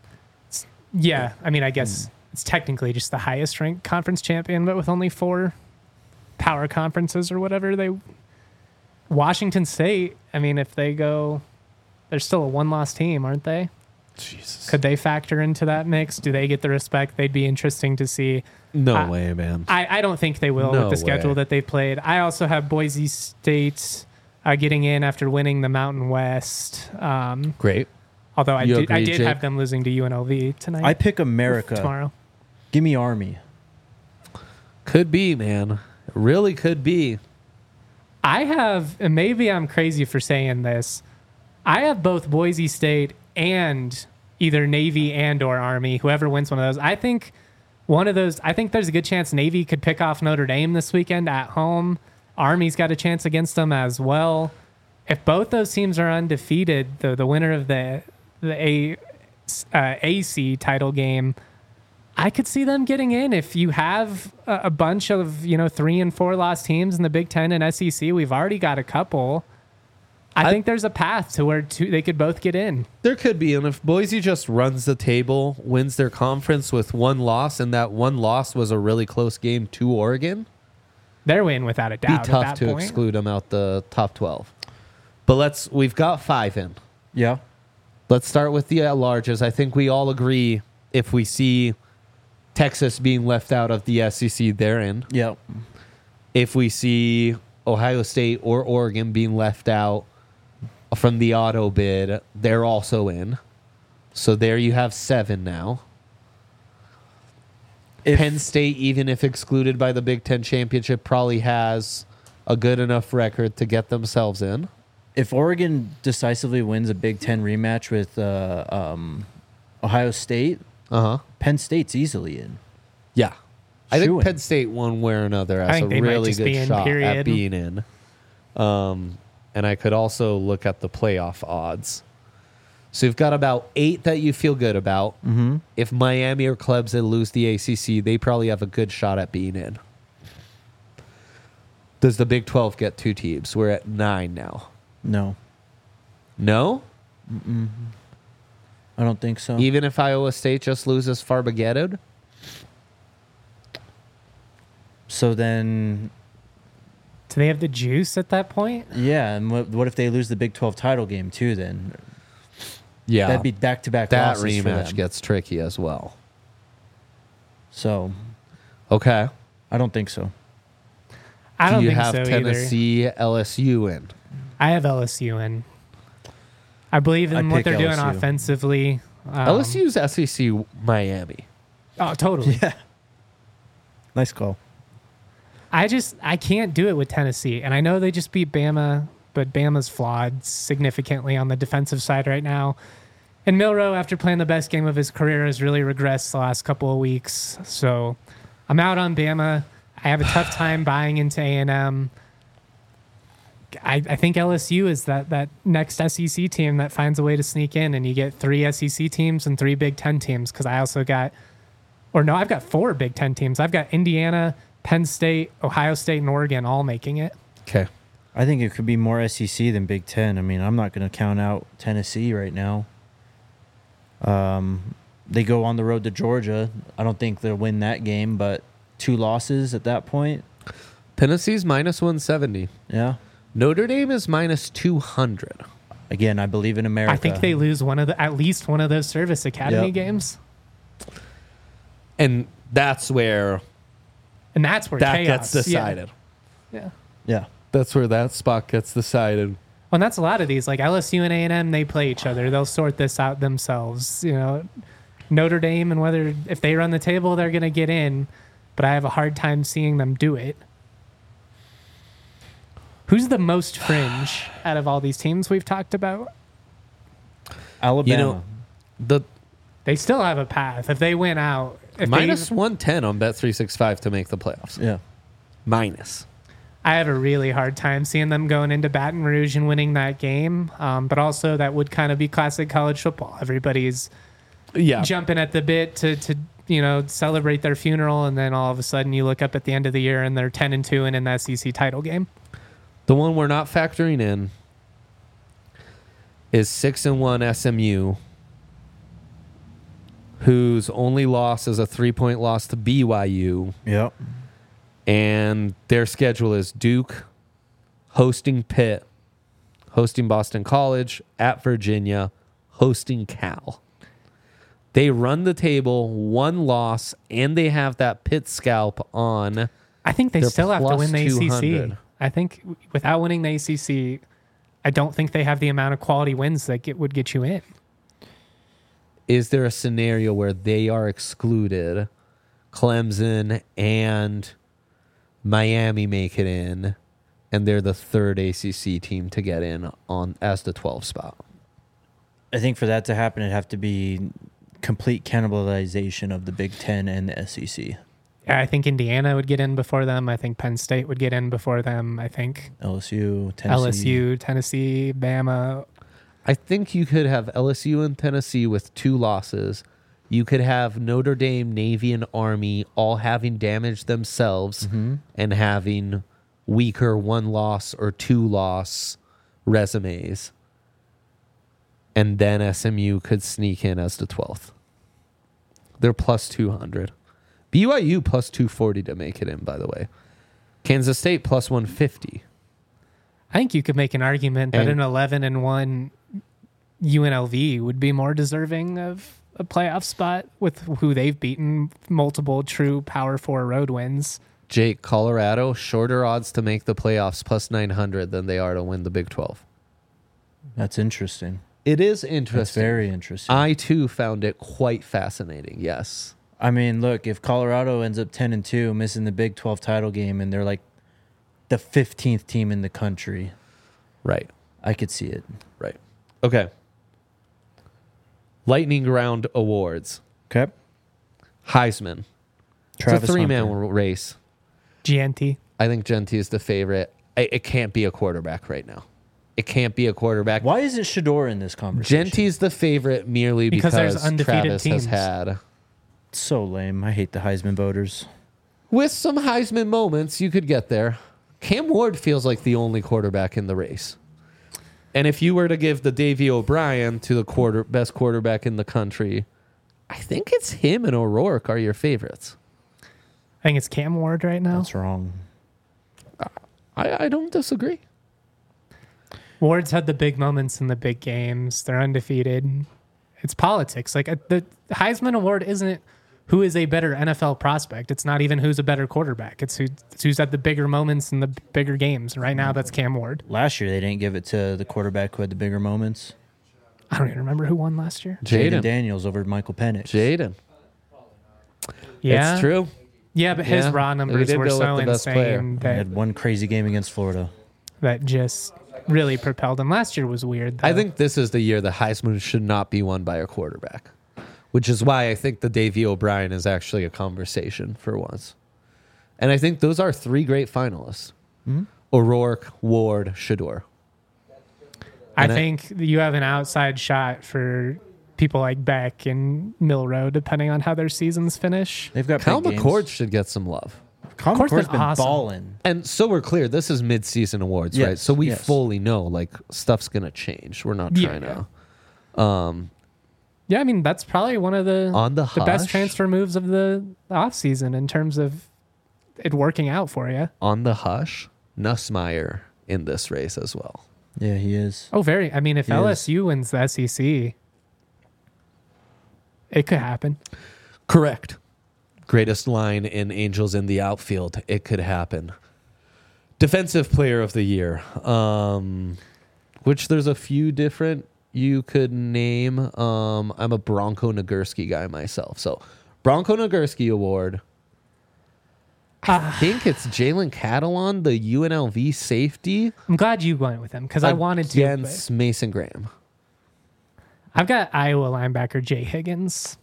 Yeah, I mean, I guess it's technically just the highest ranked conference champion, but with only four power conferences or whatever. They Washington State, I mean, if they go, they're still a one-loss team, aren't they? Jesus. Could they factor into that mix? Do they get the respect? They'd be interesting to see. No I- way, man. I, I don't think they will No with the schedule way. that they've played. I also have Boise State uh, getting in after winning the Mountain West. Um, Great. although I You did, I agree, did Jake? have them losing to U N L V tonight. I pick America. tomorrow. Give me Army. Could be, man. Really could be. I have, and maybe I'm crazy for saying this, I have both Boise State and either Navy and or Army, whoever wins one of those. I think one of those, I think there's a good chance Navy could pick off Notre Dame this weekend at home. Army's got a chance against them as well. If both those teams are undefeated, the, the winner of the, the A, uh, A C title game, I could see them getting in. If you have a, a bunch of, you know, three and four lost teams in the Big Ten and S E C, we've already got a couple. I, I- think there's a path to where two, they could both get in. There could be. And if Boise just runs the table, wins their conference with one loss, and that one loss was a really close game to Oregon, They're in without a be doubt. tough at that to point. exclude them out the top twelve. But let's, we've got five in. Yeah. Let's start with the at-larges. I think we all agree if we see Texas being left out of the S E C, they're in. Yeah. If we see Ohio State or Oregon being left out from the auto bid, they're also in. So there you have seven now. If- Penn State, even if excluded by the Big Ten Championship, probably has a good enough record to get themselves in. If Oregon decisively wins a Big Ten rematch with uh, um, Ohio State, Uh-huh. Penn State's easily in. Yeah. I think Shoo-in. Penn State, one way or another, I has a think they might really just be good in, shot period. at being in. Um, and I could also look at the playoff odds. So you've got about eight that you feel good about. Mm-hmm. If Miami or Clemson lose the A C C, they probably have a good shot at being in. Does the Big twelve get two teams? We're at nine now. No. No? I don't think so. Even if Iowa State just loses Farbagetto? So then, Do they have the juice at that point? yeah, and what, what if they lose the Big twelve title game too? Then Yeah. that'd be back to back that losses for rematch them. gets tricky as well. So Okay. I don't think so. I don't Do you think have so either. Tennessee, L S U in? I have L S U in. I believe in I'd what pick they're doing L S U. offensively. Um, L S U's S E C Miami. Oh, totally. Yeah. Nice call. I just I can't do it with Tennessee, and I know they just beat Bama, but Bama's flawed significantly on the defensive side right now. And Milroe, after playing the best game of his career, has really regressed the last couple of weeks. So I'm out on Bama. I have a tough time buying into A and M. I, I think L S U is that that next S E C team that finds a way to sneak in, and you get three S E C teams and three Big Ten teams. Because I also got, or no, I've got four Big Ten teams. I've got Indiana, Penn State, Ohio State, and Oregon all making it. Okay. I think it could be more S E C than Big Ten. I mean, I'm not going to count out Tennessee right now. Um, they go on the road to Georgia. I don't think they'll win that game, but two losses at that point. Tennessee's minus one seventy. Yeah. Notre Dame is minus two hundred. Again, I believe in America. I think they lose one of the at least one of those Service Academy Yep. games, And that's where and that's where that chaos gets decided. Yeah. yeah. Yeah. That's where that spot gets decided. Well, and that's a lot of these. Like L S U and A and M, they play each other. They'll sort this out themselves. You know, Notre Dame and whether if they run the table, they're going to get in. But I have a hard time seeing them do it. Who's the most fringe out of all these teams we've talked about? Alabama. You know, the They still have a path. If they win out, if minus they, one ten on Bet three sixty-five to make the playoffs. yeah. Minus. I have a really hard time seeing them going into Baton Rouge and winning that game. Um, but also, that would kind of be classic college football. Everybody's Yeah. jumping at the bit to, to you know celebrate their funeral, and then all of a sudden you look up at the end of the year and they're ten and two and in the S E C title game. The one we're not factoring in is six and one S M U, whose only loss is a three point loss to B Y U, Yep. and their schedule is Duke, hosting Pitt, hosting Boston College, at Virginia, hosting Cal. They run the table, one loss, and they have that Pitt scalp on. I think they They're still have to plus win the A C C. two hundred. I think without winning the A C C, I don't think they have the amount of quality wins that get, would get you in. Is there a scenario where they are excluded, Clemson and Miami make it in, and they're the third A C C team to get in on as the twelve spot? I think for that to happen, it'd have to be complete cannibalization of the Big Ten and the S E C. Yeah, I think Indiana would get in before them. I think Penn State would get in before them. I think L S U, Tennessee. L S U, Tennessee, Bama. I think you could have L S U and Tennessee with two losses. You could have Notre Dame, Navy, and Army all having damaged themselves and having weaker one loss or two loss resumes. And then S M U could sneak in as the twelfth. They're plus two hundred. B Y U plus two forty to make it in, by the way. Kansas State plus one fifty. I think you could make an argument that And- an eleven and one U N L V would be more deserving of a playoff spot with who they've beaten, multiple true Power Four road wins. Jake, Colorado, shorter odds to make the playoffs plus nine hundred than they are to win the Big twelve. That's interesting. It is That's interesting. very interesting. I, too, found it quite fascinating, yes. I mean, look, if Colorado ends up ten and two, missing the Big twelve title game, and they're like the fifteenth team in the country, Right, I could see it. right. Okay. Lightning Round Awards. Okay. Heisman. Travis it's a three-man Hunter. race. G N T. I think Genty is the favorite. I, it can't be a quarterback right now. It can't be a quarterback. Why isn't Shador in this conversation? Genty's the favorite merely Because because, there's undefeated Travis teams. has had. So lame. I hate the Heisman voters. With some Heisman moments, you could get there. Cam Ward feels like the only quarterback in the race. And if you were to give the Davey O'Brien to the quarter best quarterback in the country, I think it's him and O'Rourke are your favorites. I think it's Cam Ward right now. That's wrong. I, I don't disagree. Ward's had the big moments in the big games. They're undefeated. It's politics. Like uh, the Heisman Award isn't who is a better N F L prospect. It's not even who's a better quarterback. It's, who, it's who's had the bigger moments in the bigger games. Right now, that's Cam Ward. Last year, they didn't give it to the quarterback who had the bigger moments. I don't even remember who won last year. Jaden Jaden Daniels over Michael Penix. Jaden. Yeah, It's true. Yeah, but his Yeah. raw We numbers did were go with so the best player. insane He that had one crazy game against Florida. that just really propelled him. Last year was weird, though. I think this is the year the Heisman should not be won by a quarterback, which is why I think the Davey O'Brien is actually a conversation for once. And I think those are three great finalists. Mm-hmm. O'Rourke, Ward, Shador. I and I- think you have an outside shot for people like Beck and Milrow, depending on how their seasons finish. They've got Cal big games. McCord should get some love. Cal McCord's McCord's been been awesome. balling. And so we're clear, this is mid-season awards, right? Yes, So we yes. fully know, like, stuff's going to change. We're not Yeah, trying yeah. to... Um, Yeah, I mean, that's probably one of the On the the best hush? transfer moves of the offseason in terms of it working out for you. on the hush, Nussmeier in this race as well. Yeah, he is. Oh, very. I mean, if He is. L S U wins the S E C, it could happen. Correct. Greatest line in Angels in the outfield. It could happen. Defensive player of the year. Um, which there's a few different you could name. Um, I'm a Bronco Nagurski guy myself. So Bronco Nagurski Award. I think it's Jalen Catalon, the U N L V safety. I'm glad you went with him because I wanted to. but Against Mason Graham. I've got Iowa linebacker Jay Higgins.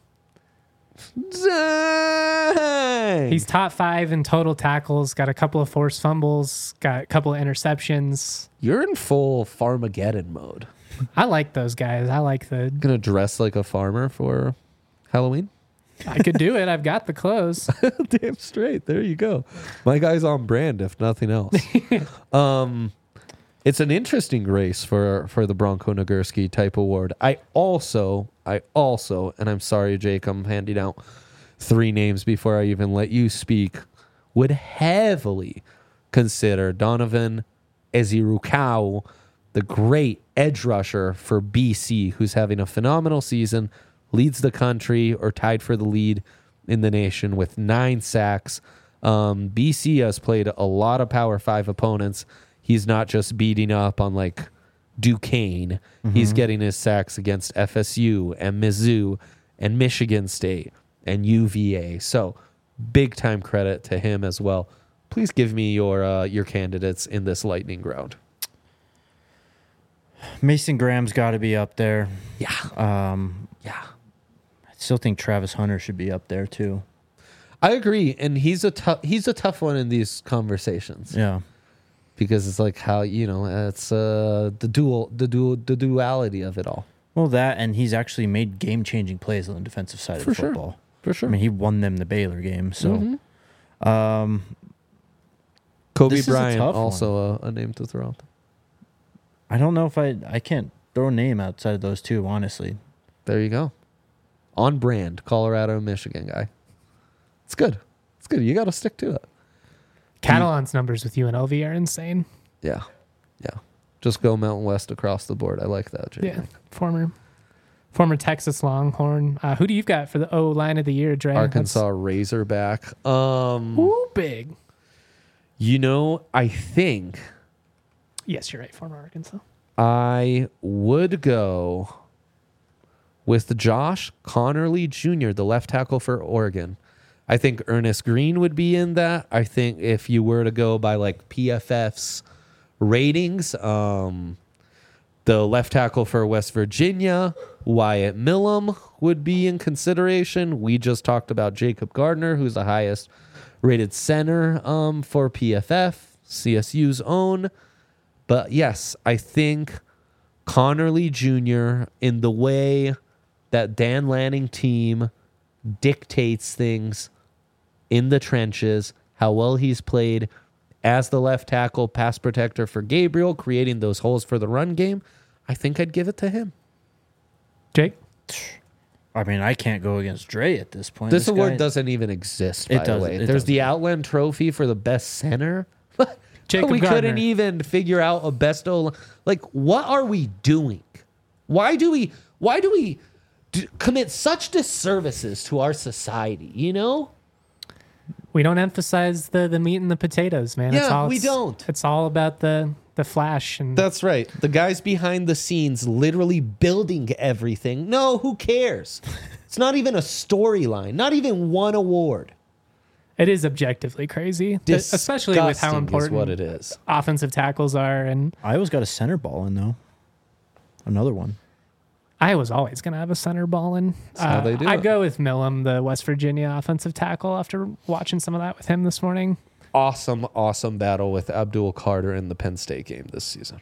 Dang! He's top five in total tackles, got a couple of forced fumbles, got a couple of interceptions. You're in full Farmageddon mode. I like those guys. I like the. Gonna dress like a farmer for Halloween? I could do it. I've got the clothes. Damn straight. There you go. My guy's on brand, if nothing else. um, it's an interesting race for for the Bronco Nagurski type award. I also, I also, and I'm sorry, Jake, I'm handing out three names before I even let you speak. Would heavily consider Donovan Ezirukau, the great edge rusher for B C, who's having a phenomenal season, leads the country or tied for the lead in the nation with nine sacks. Um, B C has played a lot of Power Five opponents. He's not just beating up on like Duquesne. Mm-hmm. He's getting his sacks against F S U and Mizzou and Michigan State and U V A. So big time credit to him as well. Please give me your uh, your candidates in this lightning round. Mason Graham's got to be up there. Yeah, Um, yeah. I still think Travis Hunter should be up there too. I agree, and he's a tough he's a tough one in these conversations. Yeah. Because it's like how, you know, it's uh, the dual the dual the duality of it all. Well, that and he's actually made game-changing plays on the defensive side For of sure. football. For sure. I mean, he won them the Baylor game. So, Mhm. um, Kobe this is a Bryant tough also a, a name to throw out. I don't know if I I can't throw a name outside of those two. Honestly, There you go. On brand, Colorado, Michigan guy. It's good. It's good. You got to stick to it. Catalan's numbers with U N L V are insane. Yeah. Yeah. Just go Mountain West across the board. I like that, Jake. Yeah, former former Texas Longhorn. Uh, who do you got for the O line of the year, Dre? Arkansas Razorback. Um, That's, ooh, big. you know, I think Yes, you're right. Former Arkansas. I would go with Josh Connerly Junior, the left tackle for Oregon. I think Ernest Green would be in that. I think if you were to go by like P F F's ratings, um, the left tackle for West Virginia, Wyatt Millum, would be in consideration. We just talked about Jacob Gardner, who's the highest rated center um, for P F F, C S U's own. But yes, I think Connerly Junior, in the way that Dan Lanning team dictates things in the trenches, how well he's played as the left tackle, pass protector for Gabriel, creating those holes for the run game. I think I'd give it to him. Jake? I mean, I can't go against Dre at this point. This, This award guy- doesn't even exist, by It the doesn't, way. it There's the doesn't. Outland Trophy for the best center. Jacob we Gardner. couldn't even figure out a best O. Like, what are we doing? Why do we? Why do we d- commit such disservices to our society? You know? We don't emphasize the, the meat and the potatoes, man. it's Yeah, all, we it's- don't. It's all about the, the flash. And That's right. The guys behind the scenes, literally building everything. No, who cares? It's not even a storyline. Not even one award. it is objectively crazy, especially with how Disgusting important is what it is. offensive tackles are. And Iowa's got a center ball in, though. Another one. Iowa's always going to have a center ball in. how they do I'd it. go with Millam, the West Virginia offensive tackle, after watching some of that with him this morning. Awesome, awesome battle with Abdul Carter in the Penn State game this season.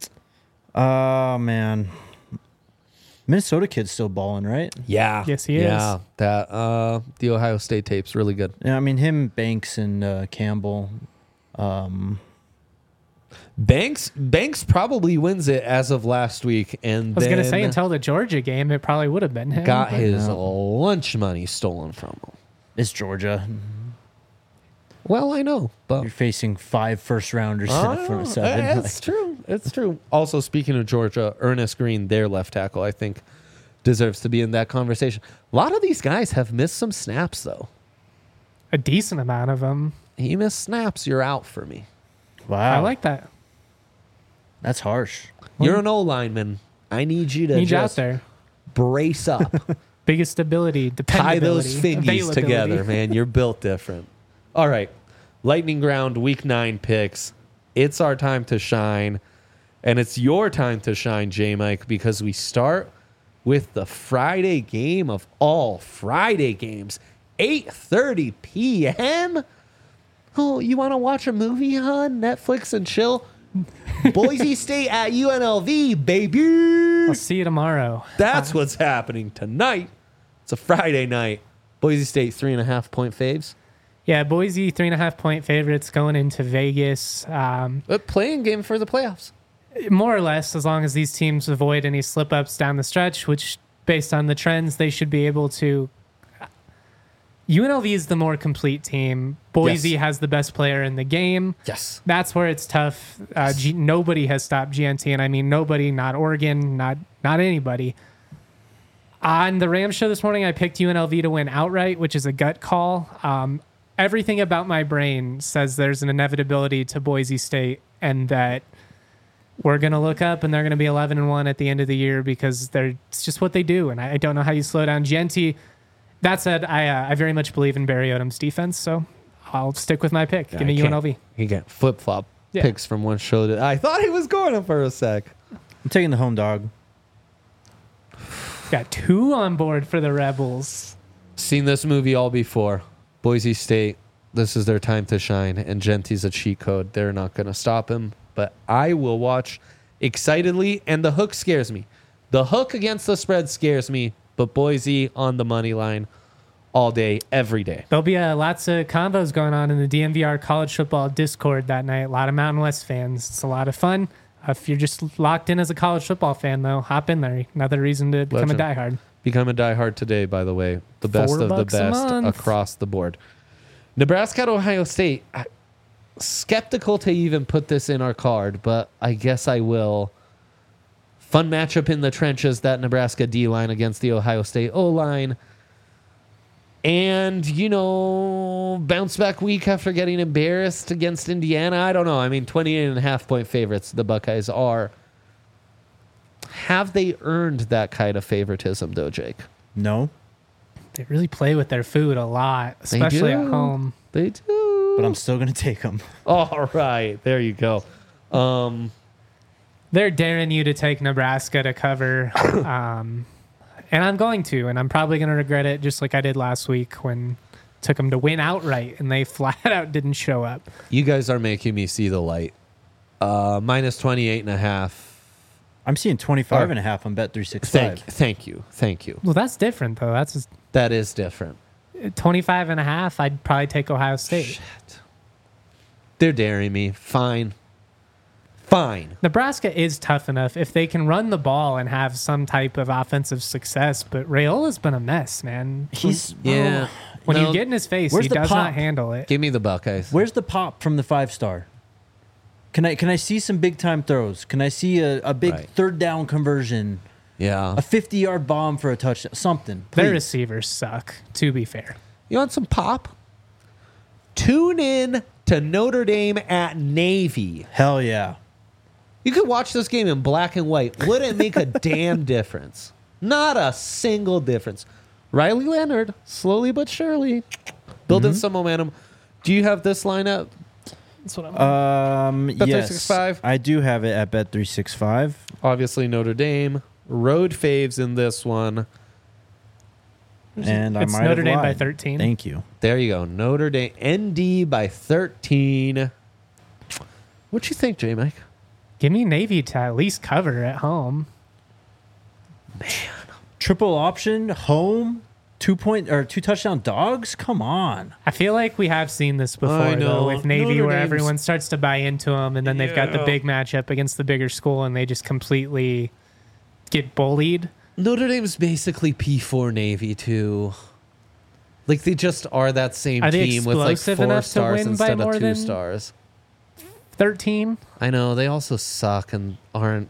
Oh, man. Minnesota kid's still balling, right? Yeah. Yes, he is. Yeah. That uh the Ohio State tape's really good. Yeah, I mean, him, Banks, and uh, Campbell. Um, Banks Banks probably wins it as of last week, and I was going to then say, until the Georgia game, it probably would have been him. got but- his no. lunch money stolen from him. it's Georgia. Well, I know, but You're facing five first rounders Oh, in front of seven. it's true. It's true. Also, speaking of Georgia, Ernest Green, their left tackle, I think deserves to be in that conversation. A lot of these guys have missed some snaps, though. A decent amount of them. He missed snaps. You're out for me. Wow. I like that. That's harsh. You're an O lineman. I need you to Need you out just there. brace up. Biggest stability, Tie those dependability, fingies availability. together, man. You're built different. All right. Lightning Ground week nine picks. It's our time to shine. And it's your time to shine, J Mike, because we start with the Friday game of all Friday games. eight thirty p.m. Oh, you want to watch a movie on Netflix and chill? Boise State at U N L V, baby. I'll see you tomorrow. That's what's happening tonight. It's a Friday night. Boise State three and a half point faves. Yeah, Boise, three and a half point favorites going into Vegas. Um, A playing game for the playoffs. more or less, as long as these teams avoid any slip ups down the stretch, which, based on the trends, they should be able to. U N L V is the more complete team. Boise Yes. has the best player in the game. Yes. That's where it's tough. Uh, G- nobody has stopped G N T, and I mean nobody, not Oregon, not not anybody. On the Rams show this morning, I picked U N L V to win outright, which is a gut call. Um, everything about my brain says there's an inevitability to Boise State, and that we're gonna look up and they're gonna be eleven and one at the end of the year because they're it's just what they do, and I, I don't know how you slow down G N T. That said, I uh, I very much believe in Barry Odom's defense, so I'll stick with my pick. Give me U N L V. You get flip flop Yeah. picks from one show to. I thought he was going for a sec. I'm taking the home dog. Got two on board for the Rebels. Seen this movie all before. Boise State. This is their time to shine, and Genty's a cheat code. They're not going to stop him. But I will watch excitedly, and the hook scares me. The hook against the spread scares me, but Boise on the money line all day, every day. There'll be uh, lots of combos going on in the D M V R college football Discord that night. A lot of Mountain West fans. It's a lot of fun. Uh, if you're just locked in as a college football fan, though, hop in there. Another reason to become Legend. a diehard. Become a diehard today, by the way. The best Four of the bucks a best month. across the board. Nebraska at Ohio State. I- Skeptical to even put this in our card, but I guess I will. Fun matchup in the trenches, that Nebraska D-line against the Ohio State O-line. And, you know, bounce back week after getting embarrassed against Indiana. I don't know. I mean, twenty-eight and a half point favorites the Buckeyes are. Have they earned that kind of favoritism, though, Jake? No, They really play with their food a lot, especially at do. home. They do. but I'm still going to take them. All right. There you go. Um, They're daring you to take Nebraska to cover. um, and I'm going to, and I'm probably going to regret it just like I did last week when took them to win outright and they flat out didn't show up. you guys are making me see the light. Uh, minus twenty-eight and a half. I'm seeing twenty-five Alright. and a half on Bet three Thank, sixty-five. thank you. Thank you. Well, that's different, though. That's just That is different. twenty-five and a half. I'd probably take Ohio State. Shit. They're daring me. Fine. fine. Nebraska is tough enough if they can run the ball and have some type of offensive success, but Rayola's been a mess, man. He's Yeah. When No, you get in his face, Where's he the does pop? not handle it. give me the Buckeyes. Where's the pop from the five star? Can I can I see some big time throws? Can I see a, a big Right. third down conversion? Yeah. A fifty yard bomb for a touchdown? Something. Their please. receivers suck, to be fair. You want some pop? Tune in to Notre Dame at Navy. Hell yeah. You could watch this game in black and white. Wouldn't make a damn difference. Not a single difference. Riley Leonard, slowly but surely, building Mm-hmm. some momentum. Do you have this lineup? That's what I'm. Um, Bet yes, three sixty-five? I do have it at Bet three sixty-five. Obviously, Notre Dame. Road faves in this one. And I It's might Notre have Dame by lied. thirteen. Thank you. There you go. Notre Dame. N D by thirteen. What you think, J Mike? Give me Navy to at least cover at home. Triple option, home, two point or two touchdown dogs. Come on. I feel like we have seen this before, I know. though, with Navy, Notre where Dame's- everyone starts to buy into them, and then they've got the Yeah. big matchup against the bigger school, and they just completely get bullied. Notre Dame's basically P four Navy, too. Like, they just are that same Are they team with, like, explosive four enough to stars win by instead more of two than- stars. thirteen. I know. They also suck and aren't.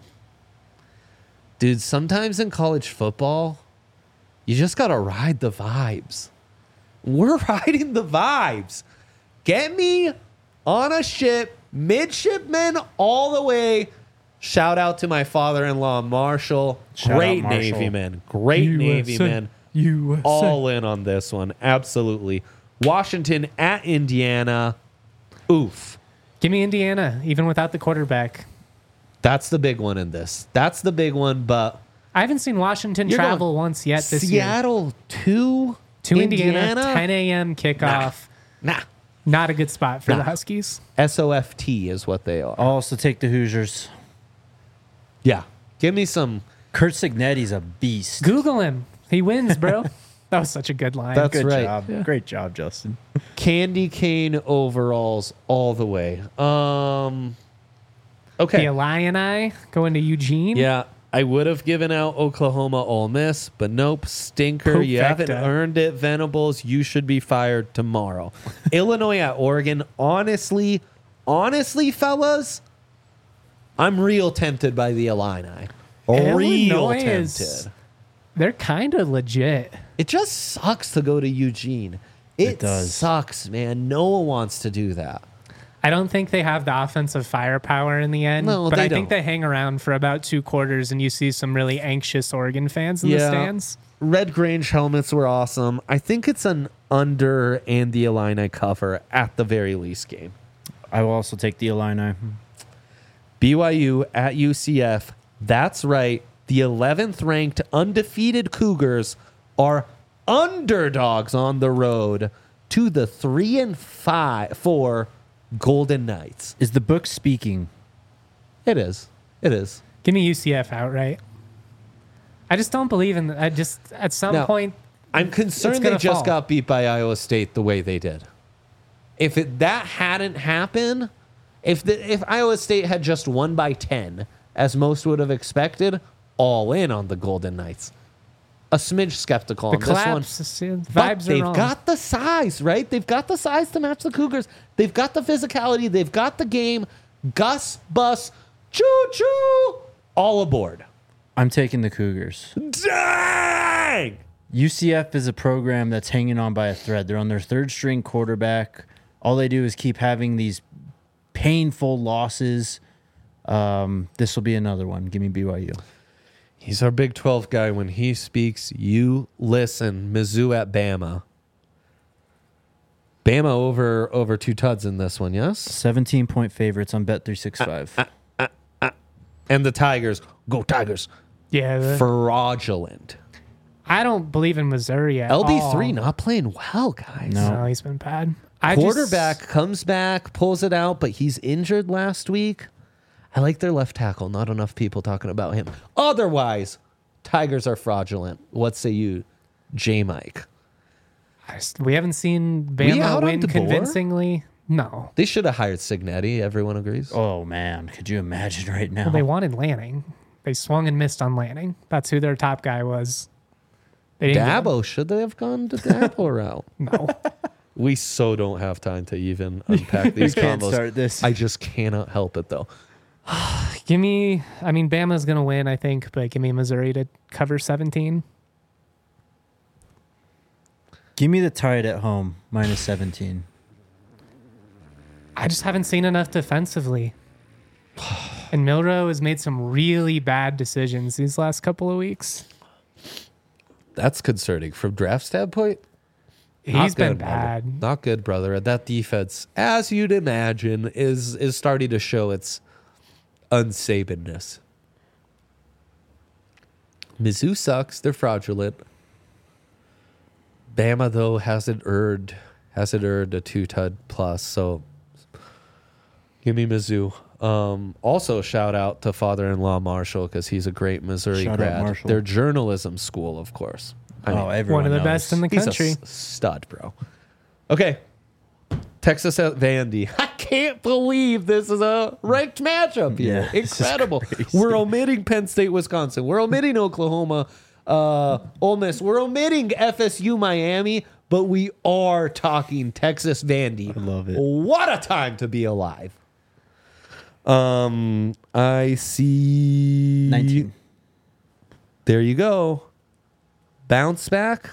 Dude, sometimes in college football, you just got to ride the vibes. We're riding the vibes. Get me on a ship, midshipman all the way. Shout out to my father-in-law, Marshall. Shout Great out, Marshall. Navy man. Great Navy man. U S A. All in on this one. Absolutely. Washington at Indiana. Oof. Give me Indiana, even without the quarterback. That's the big one in this. That's the big one, but I haven't seen Washington You're travel going once yet this year. Seattle to To Indiana, Indiana? ten a.m. kickoff. Nah. Not a good spot for Nah. the Huskies. S O F T is what they are. I'll also take the Hoosiers. Yeah. Give me some. Kurt Signetti's a beast. Google him. He wins, bro. That was such a good line. That's Good right. job. Great job, Justin. Candy cane overalls all the way. Um. The Okay. Illini going to Eugene. Yeah. I would have given out Oklahoma Ole Miss, but nope. Stinker. You haven't Perfecta. earned it, Venables. You should be fired tomorrow. Illinois at Oregon. Honestly, honestly, fellas, I'm real tempted by the Illini. Real Illinois tempted. is- They're kind of legit. It just sucks to go to Eugene. It, It does. sucks, man. No one wants to do that. I don't think they have the offensive firepower in the end, No, but they I think don't. they hang around for about two quarters, and you see some really anxious Oregon fans in the stands. Red Grange helmets were awesome. I think it's an under and the Illini cover at the very least game. I will also take the Illini. B Y U at U C F. That's right. The eleventh ranked undefeated Cougars are underdogs on the road to the three and five four Golden Knights. Is the book speaking? It is. It is. Give me U C F outright. I just don't believe in. I just at some No. point. I'm It's concerned they gonna just fall. got beat by Iowa State the way they did. If it, that hadn't happened, if the, if Iowa State had just won by ten, as most would have expected, all in on the Golden Knights. A smidge skeptical The on this one. collapse, the But vibes are they've wrong. got the size, right? They've got the size to match the Cougars. They've got the physicality. They've got the game. Gus, Bus, choo choo, all aboard. I'm taking the Cougars. Dang! U C F is a program that's hanging on by a thread. They're on their third string quarterback. All they do is keep having these painful losses. Um, this will be another one. Give me B Y U. He's our Big twelve guy. When he speaks, you listen. Mizzou at Bama. Bama over over two tuds in this one, yes? seventeen point favorites on Bet three sixty-five. And the Tigers, go Tigers. yeah, the- Fraudulent. I don't believe in Missouri at L B three all. not playing well, guys. No. No, he's been bad. I Quarterback Just, comes back, pulls it out, but he's injured last week. I like their left tackle. Not enough people talking about him. Otherwise, Tigers are fraudulent. What say you, J. Mike? I just- we haven't seen We Bama out on win DeBoer? convincingly. No. They should have hired Signetti. Everyone agrees. Oh man, could you imagine right now? Well, they wanted Lanning. They swung and missed on Lanning. That's who their top guy was. They didn't get him. Dabo, should they have gone to Dabo route? No. We so don't have time to even unpack these We can't combos. start this. I just cannot help it though. Give me, I mean, Bama's going to win, I think, but give me Missouri to cover seventeen. Give me the Tide at home, minus seventeen. I just haven't seen enough defensively. And Milrow has made some really bad decisions these last couple of weeks. That's concerning from draft standpoint. He's Not been good, brother. bad. Not good, brother. That defense, as you'd imagine, is is starting to show its unsabenness. Mizzou sucks. They're fraudulent. Bama though hasn't earned hasn't earned a two tud plus. So give me Mizzou. Um, also, shout out to father-in-law Marshall because he's a great Missouri Shout out grad. Marshall. Their journalism school, of course. I Oh, mean, everyone One of the knows. best in the he's country. a s- stud, bro. Okay. Texas at Vandy. I can't believe this is a ranked matchup here. Yeah, this is Incredible. crazy. We're omitting Penn State, Wisconsin. We're omitting Oklahoma, uh, Ole Miss. We're omitting F S U, Miami, but we are talking Texas Vandy. I love it. What a time to be alive. Um, I see nineteen. There you go. Bounce back.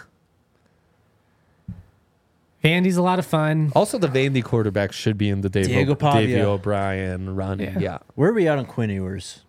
Vandy's a lot of fun. Also, the Vandy quarterback should be in the Dave, Diego o- Pavia. Davey O'Brien running. Yeah. Yeah. Where are we at on Quinn Ewers?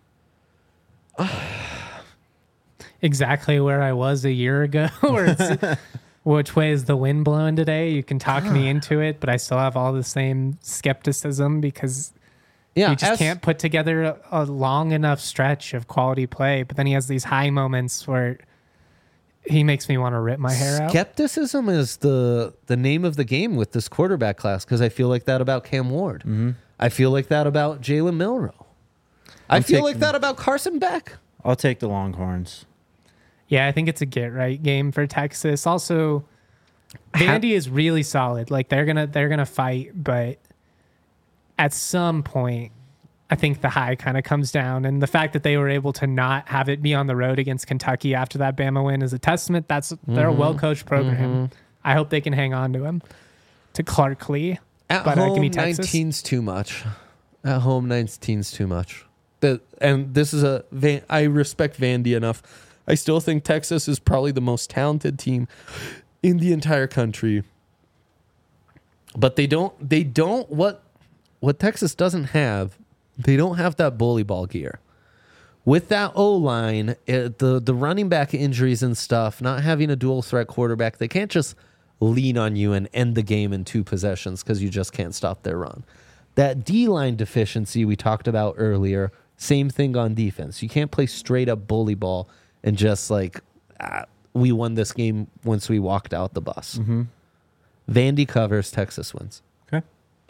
Exactly where I was a year ago. Where it's, which way is the wind blowing today? You can talk me into it, but I still have all the same skepticism because Yeah. he just as- can't put together a, a long enough stretch of quality play. But then he has these high moments where he makes me want to rip my hair out. Skepticism is the the name of the game with this quarterback class because I feel like that about Cam Ward. Mm-hmm. I feel like that about Jalen Milrow. I I'm feel like taking- that about Carson Beck. I'll take the Longhorns. Yeah, I think it's a get right game for Texas. Also, Vandy is really solid. Like they're gonna they're gonna fight, but at some point, I think the high kind of comes down. And the fact that they were able to not have it be on the road against Kentucky after that Bama win is a testament. That's they're a well coached program. I hope they can hang on to him. To Clark Lee. At But, uh, give home, me Texas. nineteen's too much. At home, nineteen's too much. The, and this is a Van, I respect Vandy enough. I still think Texas is probably the most talented team in the entire country. But they don't. They don't. What what Texas doesn't have. They don't have that bully ball gear. With that O line, the the running back injuries and stuff, not having a dual threat quarterback, they can't just lean on you and end the game in two possessions because you just can't stop their run. That D line deficiency we talked about earlier, same thing on defense. You can't play straight up bully ball and just like ah, we won this game once we walked out the bus. Mm-hmm. Vandy covers, Texas wins. Okay.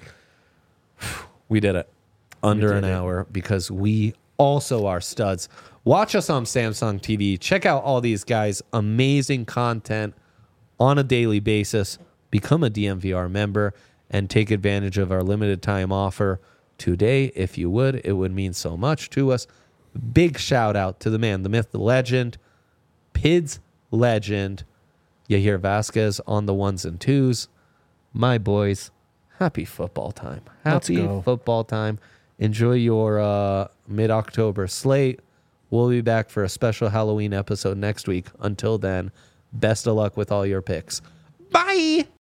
We did it under did an it. hour because we also are studs. Watch us on Samsung T V. Check out all these guys' amazing content on a daily basis. Become a D M V R member and take advantage of our limited time offer today. If you would, it would mean so much to us. Big shout out to the man, the myth, the legend, P I D's legend, Yair Vasquez on the ones and twos. My boys, happy football time. Let's Happy go. football time. Enjoy your uh, mid-October slate. We'll be back for a special Halloween episode next week. Until then, best of luck with all your picks. Bye!